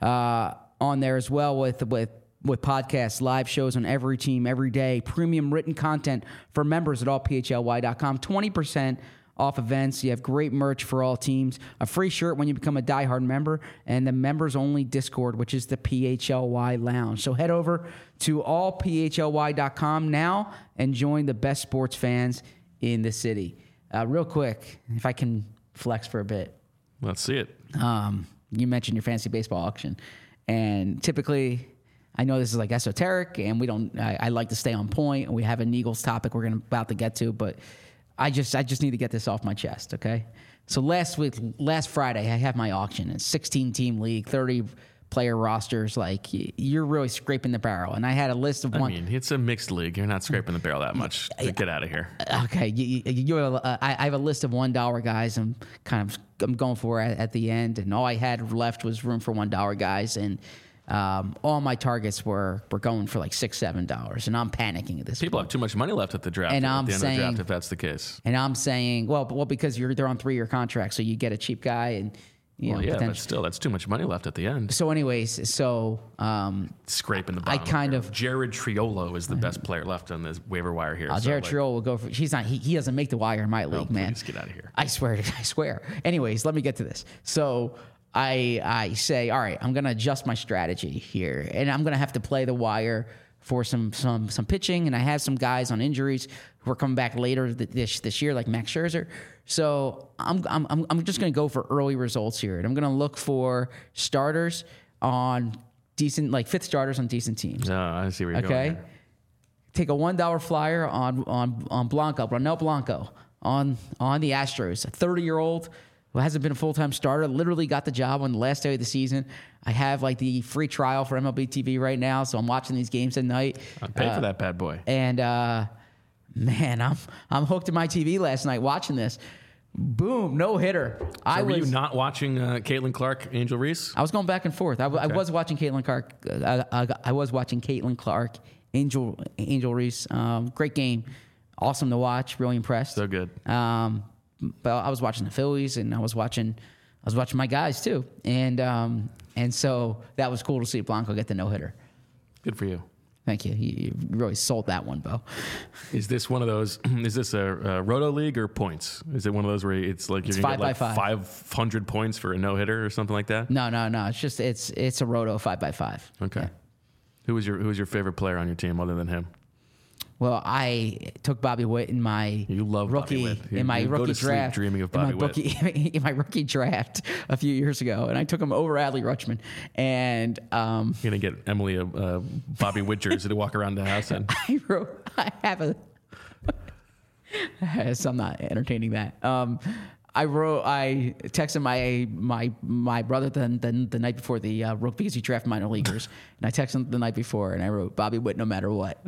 on there as well with podcasts, live shows on every team, every day, premium written content for members at allphly.com, 20% off events. You have great merch for all teams, a free shirt when you become a diehard member, and the members-only Discord, which is the PHLY Lounge. So head over to allphly.com now and join the best sports fans in the city. Real quick, if I can flex for a bit. Let's see it. You mentioned your fantasy baseball auction, and typically, I know this is like esoteric, and we don't. I like to stay on point, and we have an Eagles topic we're about to get to, but I just need to get this off my chest, okay? So last Friday, I had my auction. It's 16-team league, 30-player rosters. Like, you're really scraping the barrel. And I had a list of one. I mean, it's a mixed league. You're not scraping the barrel that much. Get out of here. Okay, I have a list of $1 guys. I'm going for at the end, and all I had left was room for $1 guys, and all my targets were going for like $6, $7, and I'm panicking at this People point. have too much money left at the draft. And at I'm the end saying, of the draft, if that's the case. And I'm saying, well, because they're on 3-year contracts, so you get a cheap guy, and but still, that's too much money left at the end. So, anyways, scraping the bottom. Jared Triolo is the best player left on this waiver wire here. Jared Triolo will go for. He's not. He doesn't make the wire in my league, man. Please get out of here. I swear. Anyways, let me get to this. So I say, all right, I'm going to adjust my strategy here, and I'm going to have to play the wire for some pitching, and I have some guys on injuries who are coming back later this year, like Max Scherzer. So I'm just going to go for early results here, and I'm going to look for starters on decent, like fifth starters on decent teams. Oh, I see where you're going here. Take a $1 flyer on Blanco, Ronel Blanco on the Astros, a 30-year-old. Who hasn't been a full-time starter, literally got the job on the last day of the season. I have like the free trial for MLB TV right now, so I'm watching these games at night. I'm paying for that bad boy. And man, I'm hooked to my TV last night watching this. Boom, no hitter. So were you not watching Caitlin Clark, Angel Reese? I was going back and forth. I was watching Caitlin Clark. I was watching Caitlin Clark, Angel Reese. Great game, awesome to watch. Really impressed. So good. But I was watching the Phillies, and I was watching my guys too, and so that was cool to see Blanco get the no-hitter. Good for you. Thank you. You really sold that one, Bo. Is this one of those? Is this a roto league or points? Is it one of those where it's like you're gonna get like 500 points for a no-hitter or something like that? No. It's a roto 5x5. Okay. Yeah. Who was your favorite player on your team other than him? Well, I took Bobby Witt in my rookie draft. Dreaming of Bobby Witt in my rookie draft a few years ago, and I took him over Adley Rutschman. And you're gonna get Emily a Bobby Witt jersey to walk around the house in. I have a. So I'm not entertaining that. I texted my brother the night before the rookie because he drafted minor leaguers, and I texted him the night before, and I wrote Bobby Witt no matter what.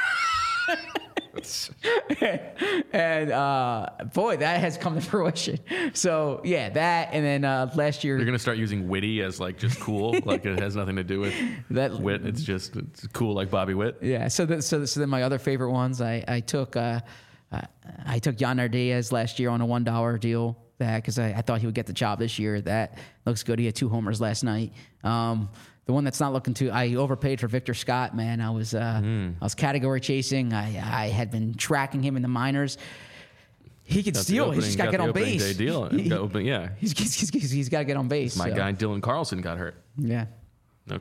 And boy, that has come to fruition. So yeah, that, and then last year you're gonna start using Witty as like just cool, like it has nothing to do with that Witt. It's cool like Bobby Witt. Yeah. So then my other favorite ones, I took Jan Nardiaz last year on a $1 deal. That because I thought he would get the job this year. That looks good. He had 2 homers last night. The one that's not looking too, I overpaid for Victor Scott, man. I was category chasing. I had been tracking him in the minors. He could steal. He's just got to get on base. Day deal. He's got to get on base. My guy Dylan Carlson got hurt. Yeah. Okay.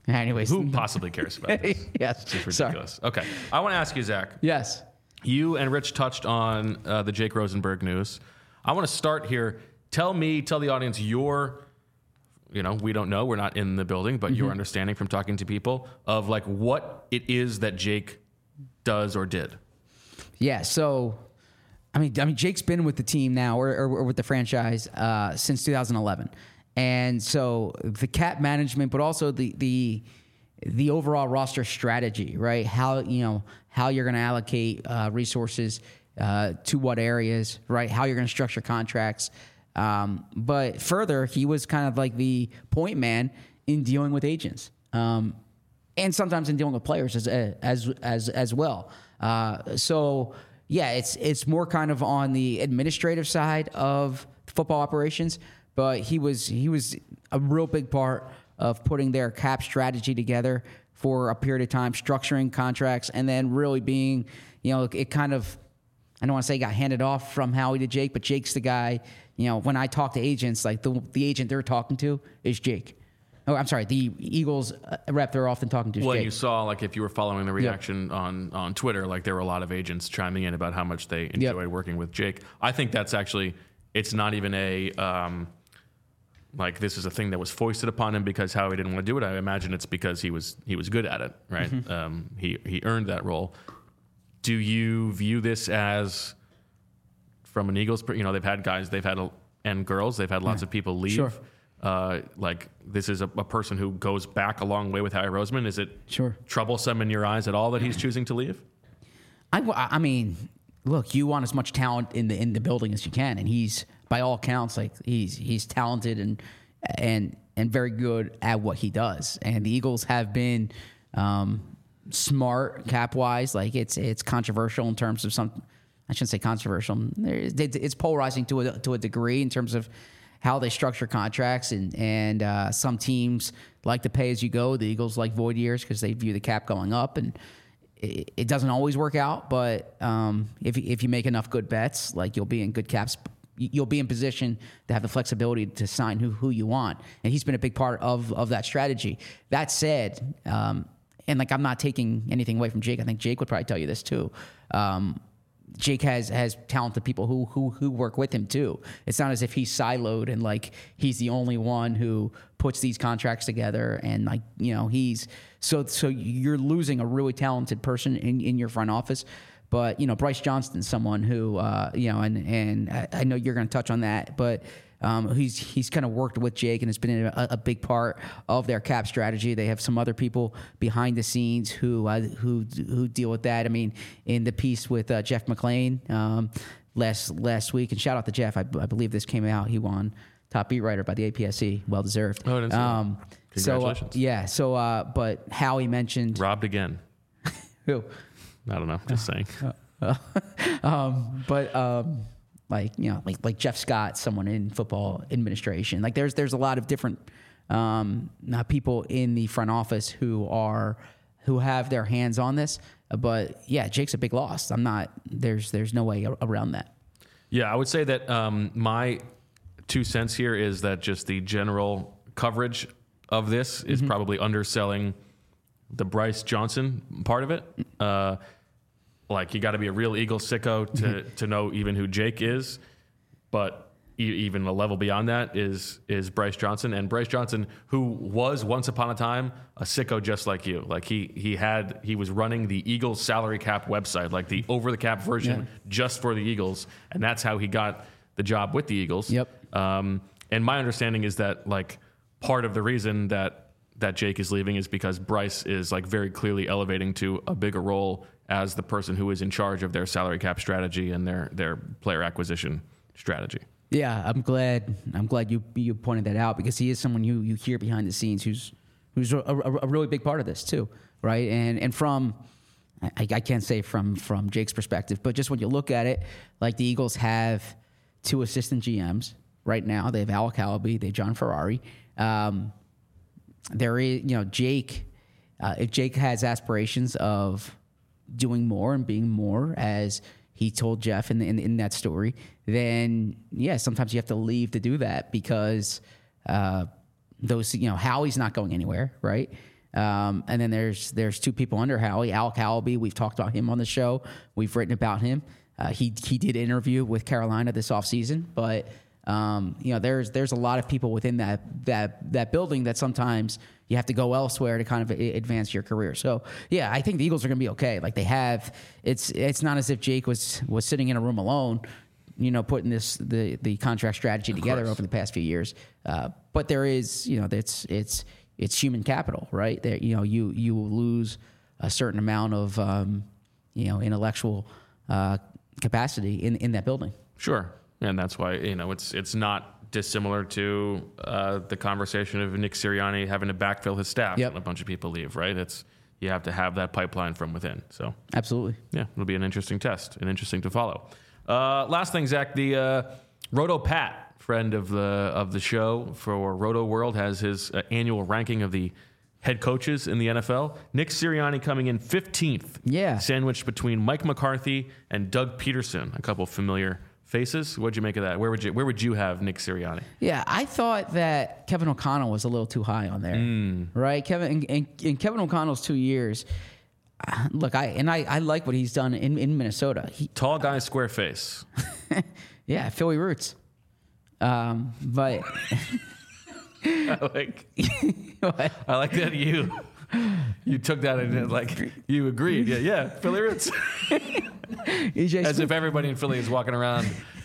Anyways, Who possibly cares about this? Yes. It's ridiculous. Okay. I want to ask you, Zach. Yes. You and Rich touched on the Jake Rosenberg news. I want to start here. Tell the audience your, we don't know, we're not in the building, but your understanding from talking to people of like what it is that Jake does or did. Yeah. So, I mean, Jake's been with the team now or with the franchise since 2011. And so the cap management, but also the overall roster strategy, right? How you're going to allocate resources to what areas, right? How you're going to structure contracts. But further, he was kind of like the point man in dealing with agents, and sometimes in dealing with players as well. So yeah, it's more kind of on the administrative side of football operations. But he was a real big part of putting their cap strategy together for a period of time, structuring contracts, and then really being, it kind of, I don't want to say got handed off from Howie to Jake, but Jake's the guy, when I talk to agents, like the agent they're talking to is Jake. Oh, I'm sorry, the Eagles rep they're often talking to is Jake. Well, you saw, like, if you were following the reaction on Twitter, like there were a lot of agents chiming in about how much they enjoy working with Jake. I think that's actually, it's not even a... like this is a thing that was foisted upon him because Howie didn't want to do it. I imagine it's because he was good at it, right? He earned that role. Do you view this as, from an Eagles, they've had guys, and girls, they've had lots of people leave. Sure. Like this is a person who goes back a long way with Howie Roseman. Is it troublesome in your eyes at all that he's choosing to leave? I mean, look, you want as much talent in the building as you can, and he's, by all accounts, like he's talented and very good at what he does. And the Eagles have been smart cap wise. Like it's controversial in terms of some. I shouldn't say controversial. It's polarizing to a degree in terms of how they structure contracts, and some teams like to pay as you go. The Eagles like void years because they view the cap going up, and it doesn't always work out. But if you make enough good bets, like you'll be in good caps. You'll be in position to have the flexibility to sign who you want. And he's been a big part of that strategy. That said, and like I'm not taking anything away from Jake. I think Jake would probably tell you this too. Jake has talented people who work with him too. It's not as if he's siloed and like he's the only one who puts these contracts together and like, he's so you're losing a really talented person in your front office. But, Bryce Johnston's someone who, and I know you're going to touch on that, but he's kind of worked with Jake and has been a big part of their cap strategy. They have some other people behind the scenes who deal with that. I mean, in the piece with Jeff McClain last week, and shout out to Jeff. I believe this came out. He won top beat writer by the APSE. Well deserved. Oh, it is. Congratulations. But Howie mentioned robbed again. Who? I don't know. Just saying. Like Jeff Scott, someone in football administration. Like there's a lot of different people in the front office who have their hands on this. But yeah, Jake's a big loss. There's no way around that. Yeah, I would say that my 2 cents here is that just the general coverage of this is probably underselling the Bryce Johnson part of it. Like you got to be a real Eagles sicko to know even who Jake is, but even a level beyond that is Bryce Johnson. And Bryce Johnson, who was once upon a time a sicko just like you. Like he was running the Eagles salary cap website, like the over the cap version just for the Eagles, and that's how he got the job with the Eagles. Yep. And my understanding is that like part of the reason that Jake is leaving is because Bryce is like very clearly elevating to a bigger role as the person who is in charge of their salary cap strategy and their player acquisition strategy. Yeah, I'm glad you pointed that out because he is someone you hear behind the scenes who's a really big part of this too, right? And from I can't say from Jake's perspective, but just when you look at it, like the Eagles have 2 assistant GMs right now. They have Alec Halaby, they have John Ferrari. There is, Jake. If Jake has aspirations of doing more and being more, as he told Jeff in that story, then yeah, sometimes you have to leave to do that because Howie's not going anywhere, right? And then there's two people under Howie. Al Calaby, we've talked about him on the show. We've written about him. He did interview with Carolina this offseason, but there's a lot of people within that building that sometimes you have to go elsewhere to kind of advance your career. So yeah, I think the Eagles are going to be okay. Like it's not as if Jake was sitting in a room alone, putting the contract strategy together over the past few years. But there is, it's human capital, right? There, you will lose a certain amount of, intellectual capacity in that building. Sure. And that's why, it's not dissimilar to the conversation of Nick Sirianni having to backfill his staff when a bunch of people leave, right? You have to have that pipeline from within. So absolutely. Yeah, it'll be an interesting test and interesting to follow. Last thing, Zach, the Roto Pat, friend of the show for Roto World, has his annual ranking of the head coaches in the NFL. Nick Sirianni coming in 15th. Yeah. Sandwiched between Mike McCarthy and Doug Peterson, a couple familiar faces. What'd you make of that? Where would you have Nick Sirianni? Yeah, I thought that Kevin O'Connell was a little too high on there. Right? Kevin in Kevin O'Connell's 2 years. Look, I like what he's done in Minnesota. Tall guy, square face. Yeah, Philly roots. But I like that you took that and you agreed. Yeah, Philly roots. As if everybody in Philly is walking around,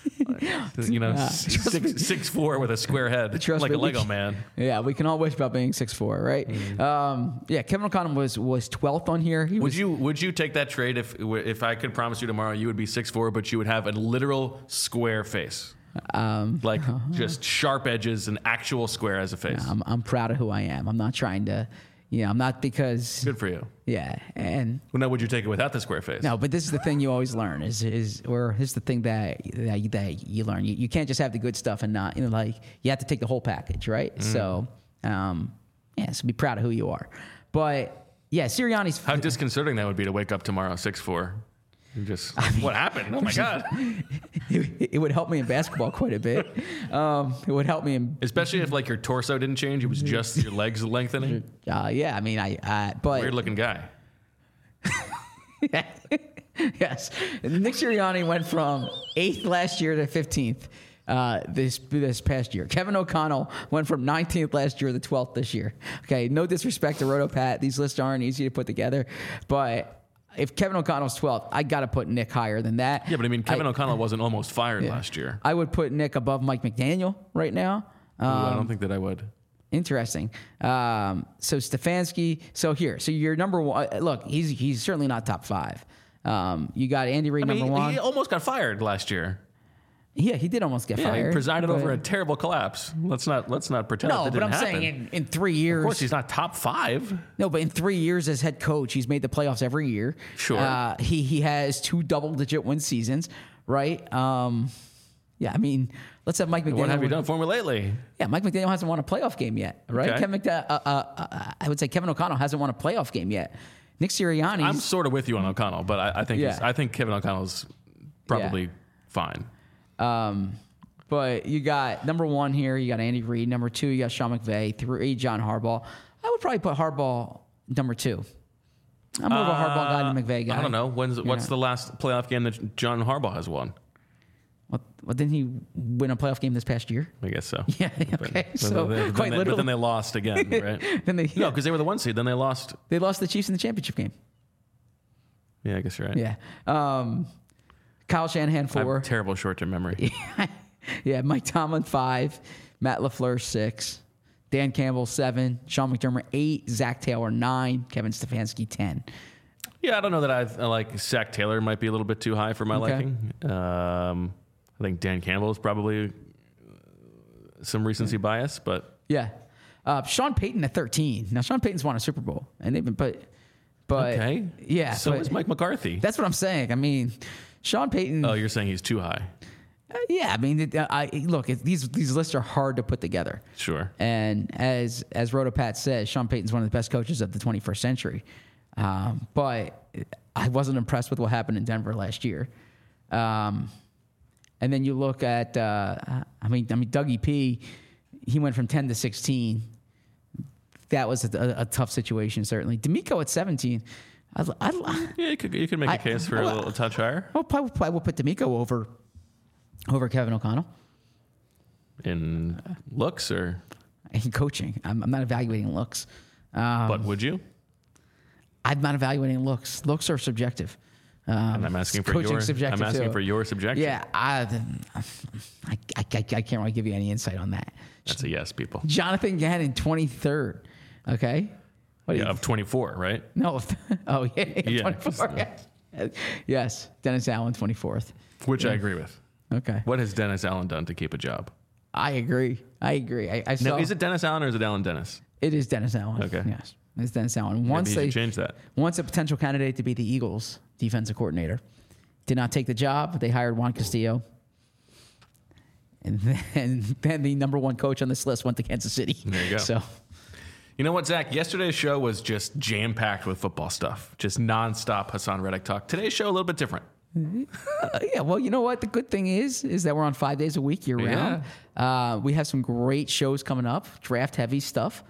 6'4" with a square head, like a Lego man. Yeah, we can all wish about being 6'4", right? Kevin O'Connell was 12th on here. Would you take that trade if I could promise you tomorrow you would be 6'4", but you would have a literal square face? Just sharp edges, an actual square as a face. I'm proud of who I am. I'm not trying to, I'm not because. Good for you. Yeah, and. Well, now would you take it without the square face? No, but this is the thing you always learn is here's the thing that you learn. You can't just have the good stuff and not, you have to take the whole package, right? So, so be proud of who you are. But yeah, Sirianni's. How disconcerting that would be to wake up tomorrow 6'4". What happened? Oh my God. It would help me in basketball quite a bit. It would help me especially if your torso didn't change. It was just your legs lengthening. Yeah. I mean, but weird looking guy. Yes. Nick Sirianni went from 8th last year to 15th. This past year. Kevin O'Connell went from 19th last year to 12th this year. Okay, no disrespect to Roto Pat. These lists aren't easy to put together, but if Kevin O'Connell's 12th, I got to put Nick higher than that. Yeah, but I mean, Kevin O'Connell wasn't almost fired last year. I would put Nick above Mike McDaniel right now. I don't think that I would. Interesting. So Stefanski. So your number one. Look, he's certainly not top 5. You got Andy Reid number 1. He almost got fired last year. Yeah, he did almost get fired. He presided over a terrible collapse. Let's not pretend that didn't happen. Saying in 3 years. Of course, he's not top 5. No, but in 3 years as head coach, he's made the playoffs every year. Sure. He has 2 double-digit win seasons, right? Yeah, I mean, let's have Mike McDaniel. What have you done for me lately? Yeah, Mike McDaniel hasn't won a playoff game yet, right? Okay. I would say Kevin O'Connell hasn't won a playoff game yet. Nick Sirianni. I'm sort of with you on O'Connell, but I think Kevin O'Connell's probably fine. But you got number 1 here. You got Andy Reid. Number 2, you got Sean McVay. 3, John Harbaugh. I would probably put Harbaugh number 2. I'm more of a Harbaugh guy than McVay guy. I don't know. What's the last playoff game that John Harbaugh has won? Well, didn't he win a playoff game this past year? I guess so. Yeah. Okay. But then they lost again, right? No, because they were the 1 seed. Then they lost. They lost the Chiefs in the championship game. Yeah, I guess you're right. Yeah. Kyle Shanahan 4. I have terrible short-term memory. Yeah, Mike Tomlin 5, Matt LaFleur 6, Dan Campbell 7, Sean McDermott 8, Zach Taylor 9, Kevin Stefanski 10. Yeah, I don't know that I like Zach Taylor might be a little bit too high for my liking. I think Dan Campbell is probably some recency bias, but yeah. Sean Payton at 13. Now Sean Payton's won a Super Bowl, and they've been but okay, yeah. So is Mike McCarthy. That's what I'm saying. I mean, Sean Payton. Oh, you're saying he's too high. Yeah, I mean, these lists are hard to put together. Sure. And as Rotopat says, Sean Payton's one of the best coaches of the 21st century. But I wasn't impressed with what happened in Denver last year. And then you look at, Dougie P. He went from 10 to 16. that was a tough situation, certainly. D'Amico at 17. Yeah, you could make a case for a little touch higher. I'll probably put D'Amico over Kevin O'Connell. In looks or? In coaching. I'm not evaluating looks. But would you? I'm not evaluating looks. Looks are subjective. And I'm asking for coaching subjective I'm asking too. for your subjection. Yeah, I can't really give you any insight on that. That's a yes, people. Jonathan Gannon, 23rd. Okay. What do you, Of 24, right? no. Oh, yeah. Yeah. 24. Yeah. Yes. Dennis Allen, 24th. Which I agree with. Okay. What has Dennis Allen done to keep a job? I agree. I saw. Now, is it Dennis Allen or is it Alan Dennis? It is Dennis Allen. Okay. Yes. It's Dennis Allen. Maybe you should change that. Once a potential candidate to be the Eagles defensive coordinator. Did not take the job. They hired Juan Castillo. And then the number one coach on this list went to Kansas City. There you go. So, You know what, Zach? Yesterday's show was just jam-packed with football stuff. Just nonstop Hassan Reddick talk. Today's show, a little bit different. yeah, well, you know what? The good thing is that we're on 5 days a week year round. We have some great shows coming up, draft-heavy stuff.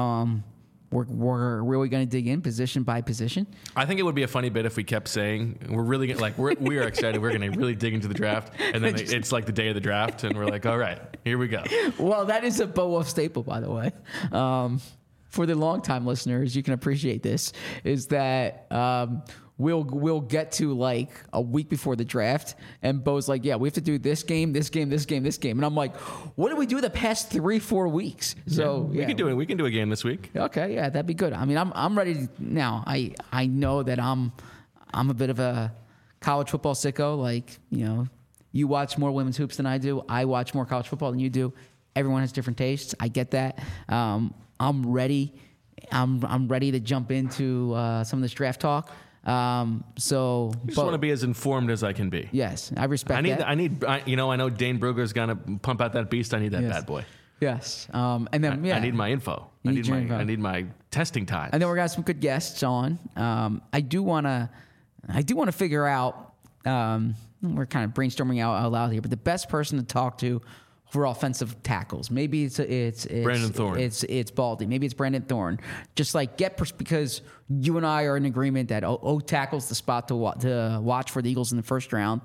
We're really going to dig in position by position. I think it would be a funny bit if we kept saying we're really we are excited. We're going to really dig into the draft, and then it's like the day of the draft, and we're like, all right, here we go. Well, that is a Bo Wolf staple, by the way. For the longtime listeners, you can appreciate this. Is that we'll get to like a week before the draft, and Bo's like, "Yeah, we have to do this game, this game, this game, this game," and I'm like, "What did we do the past 3-4 weeks?" So we can do it. We can do a game this week. Okay, yeah, that'd be good. I mean, I'm ready now. I know that I'm a bit of a college football sicko. Like, you know, you watch more women's hoops than I do. I watch more college football than you do. Everyone has different tastes. I get that. I'm ready. I'm ready to jump into some of this draft talk. I just want to be as informed as I can be. Yes, I respect that. I know Dane Brugger's going to pump out that beast. I need that bad boy. Yes. And then, I need my info. I need my testing time. And then we're going to have some good guests on. I do want to figure out, we're kind of brainstorming out loud here, but the best person to talk to for offensive tackles. Maybe it's Brandon Thorne. It's Baldy. Maybe it's Brandon Thorne. Just like because you and I are in agreement that tackle's the spot to watch for the Eagles in the first round.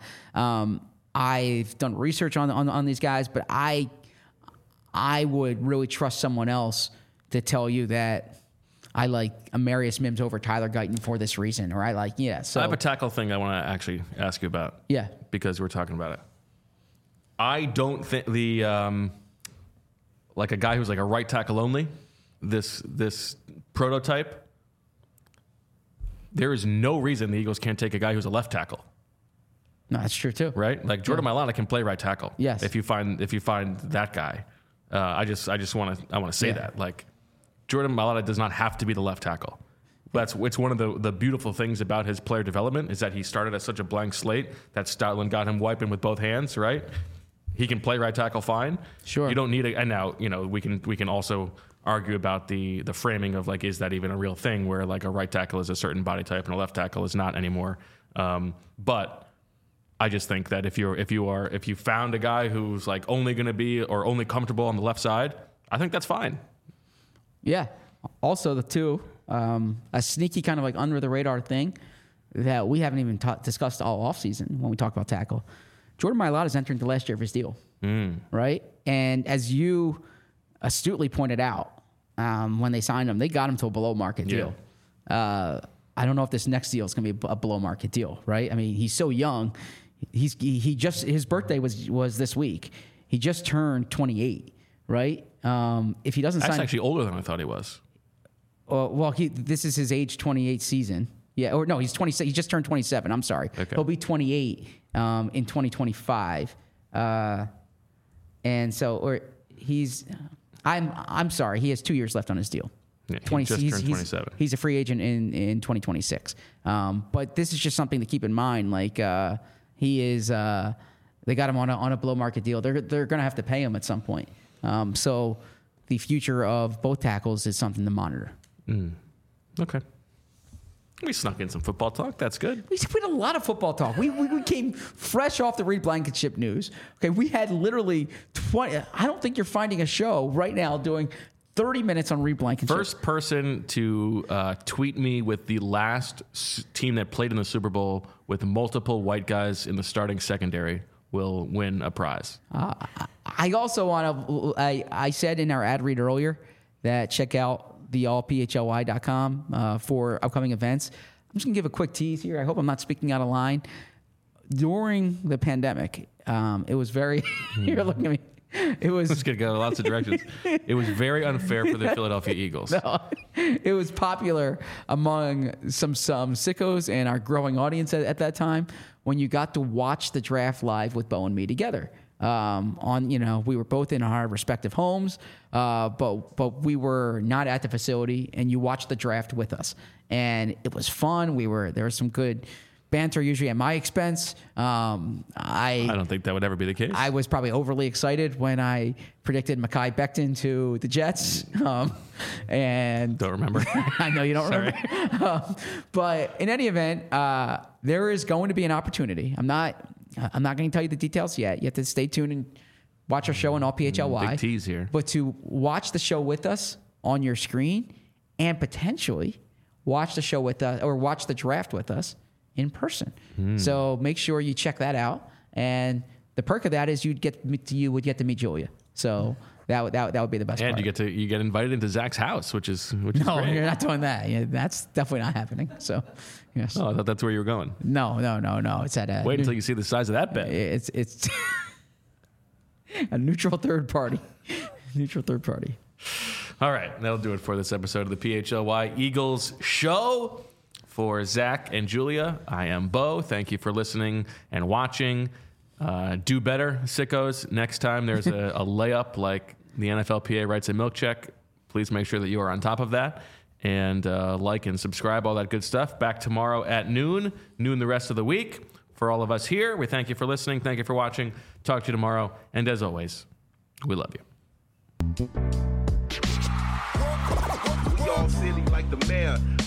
I've done research on these guys, but I would really trust someone else to tell you that I like Amarius Mims over Tyler Guyton for this reason, or So I have a tackle thing I want to actually ask you about. Yeah, because we're talking about it. I don't think like a guy who's like a right tackle only, this prototype, there is no reason the Eagles can't take a guy who's a left tackle. No, that's true too. Right? Like Jordan Mailata can play right tackle. Yes. If you find that guy. I just want to say that. Like Jordan Mailata does not have to be the left tackle. It's one of the beautiful things about his player development is that he started as such a blank slate that Stoutland got him wiping with both hands, right? He can play right tackle fine. Sure. You don't need and now, we can also argue about the framing of like, is that even a real thing where like a right tackle is a certain body type and a left tackle is not anymore. But I just think that if you found a guy who's like only going to be or only comfortable on the left side, I think that's fine. Yeah. Also a sneaky kind of like under the radar thing that we haven't even discussed all offseason when we talk about tackle. Jordan Mailata is entering the last year of his deal, right? And as you astutely pointed out, when they signed him, they got him to a below market deal. I don't know if this next deal is going to be a below market deal, right? I mean, he's so young. His birthday was this week. He just turned 28, right? If he doesn't sign, that's actually older than I thought he was. Well, this is his age 28 season. Yeah, or no, he's 26. He just turned 27. I'm sorry. Okay. He'll be 28 in 2025. And so, I'm sorry. He has 2 years left on his deal. Yeah, he just turned 27. He's a free agent in 2026. But this is just something to keep in mind. Like he is. They got him on a below market deal. They're going to have to pay him at some point. So the future of both tackles is something to monitor. Okay. We snuck in some football talk. That's good. We had a lot of football talk. We came fresh off the Reed Blankenship news. Okay, we had literally 20. I don't think you're finding a show right now doing 30 minutes on Reed Blankenship. First person to tweet me with the last team that played in the Super Bowl with multiple white guys in the starting secondary will win a prize. I also want to, I said in our ad read earlier that check out the allphly.com for upcoming events. I'm just going to give a quick tease here. I hope I'm not speaking out of line. During the pandemic, it was very, you're looking at me. It was. It's going to go lots of directions. It was very unfair for the Philadelphia Eagles. No, it was popular among some sickos and our growing audience at that time when you got to watch the draft live with Bo and me together. We were both in our respective homes, but we were not at the facility, and you watched the draft with us, and it was fun. There was some good banter, usually at my expense. I don't think that would ever be the case. I was probably overly excited when I predicted Mekhi Becton to the Jets. And don't remember. I know you don't remember. But in any event, there is going to be an opportunity. I'm not going to tell you the details yet. You have to stay tuned and watch our show on allphly. Big tease here. But to watch the show with us on your screen and potentially watch the show with us or watch the draft with us in person. So make sure you check that out. And the perk of that is you would get to meet Julia. So that would be the best part. And you get invited into Zach's house, which is no, great. You're not doing that. Yeah, that's definitely not happening. So yes. Oh, I thought that's where you were going. No. It's at wait until you see the size of that bed. It's a neutral third party. Neutral third party. All right, that'll do it for this episode of the PHLY Eagles show. For Zach and Julia, I am Bo. Thank you for listening and watching. Do better, sickos. Next time there's a layup like the NFLPA writes a milk check, please make sure that you are on top of that. And like and subscribe, all that good stuff. Back tomorrow at noon the rest of the week. For all of us here, we thank you for listening. Thank you for watching. Talk to you tomorrow. And as always, we love you. We all silly like the mayor.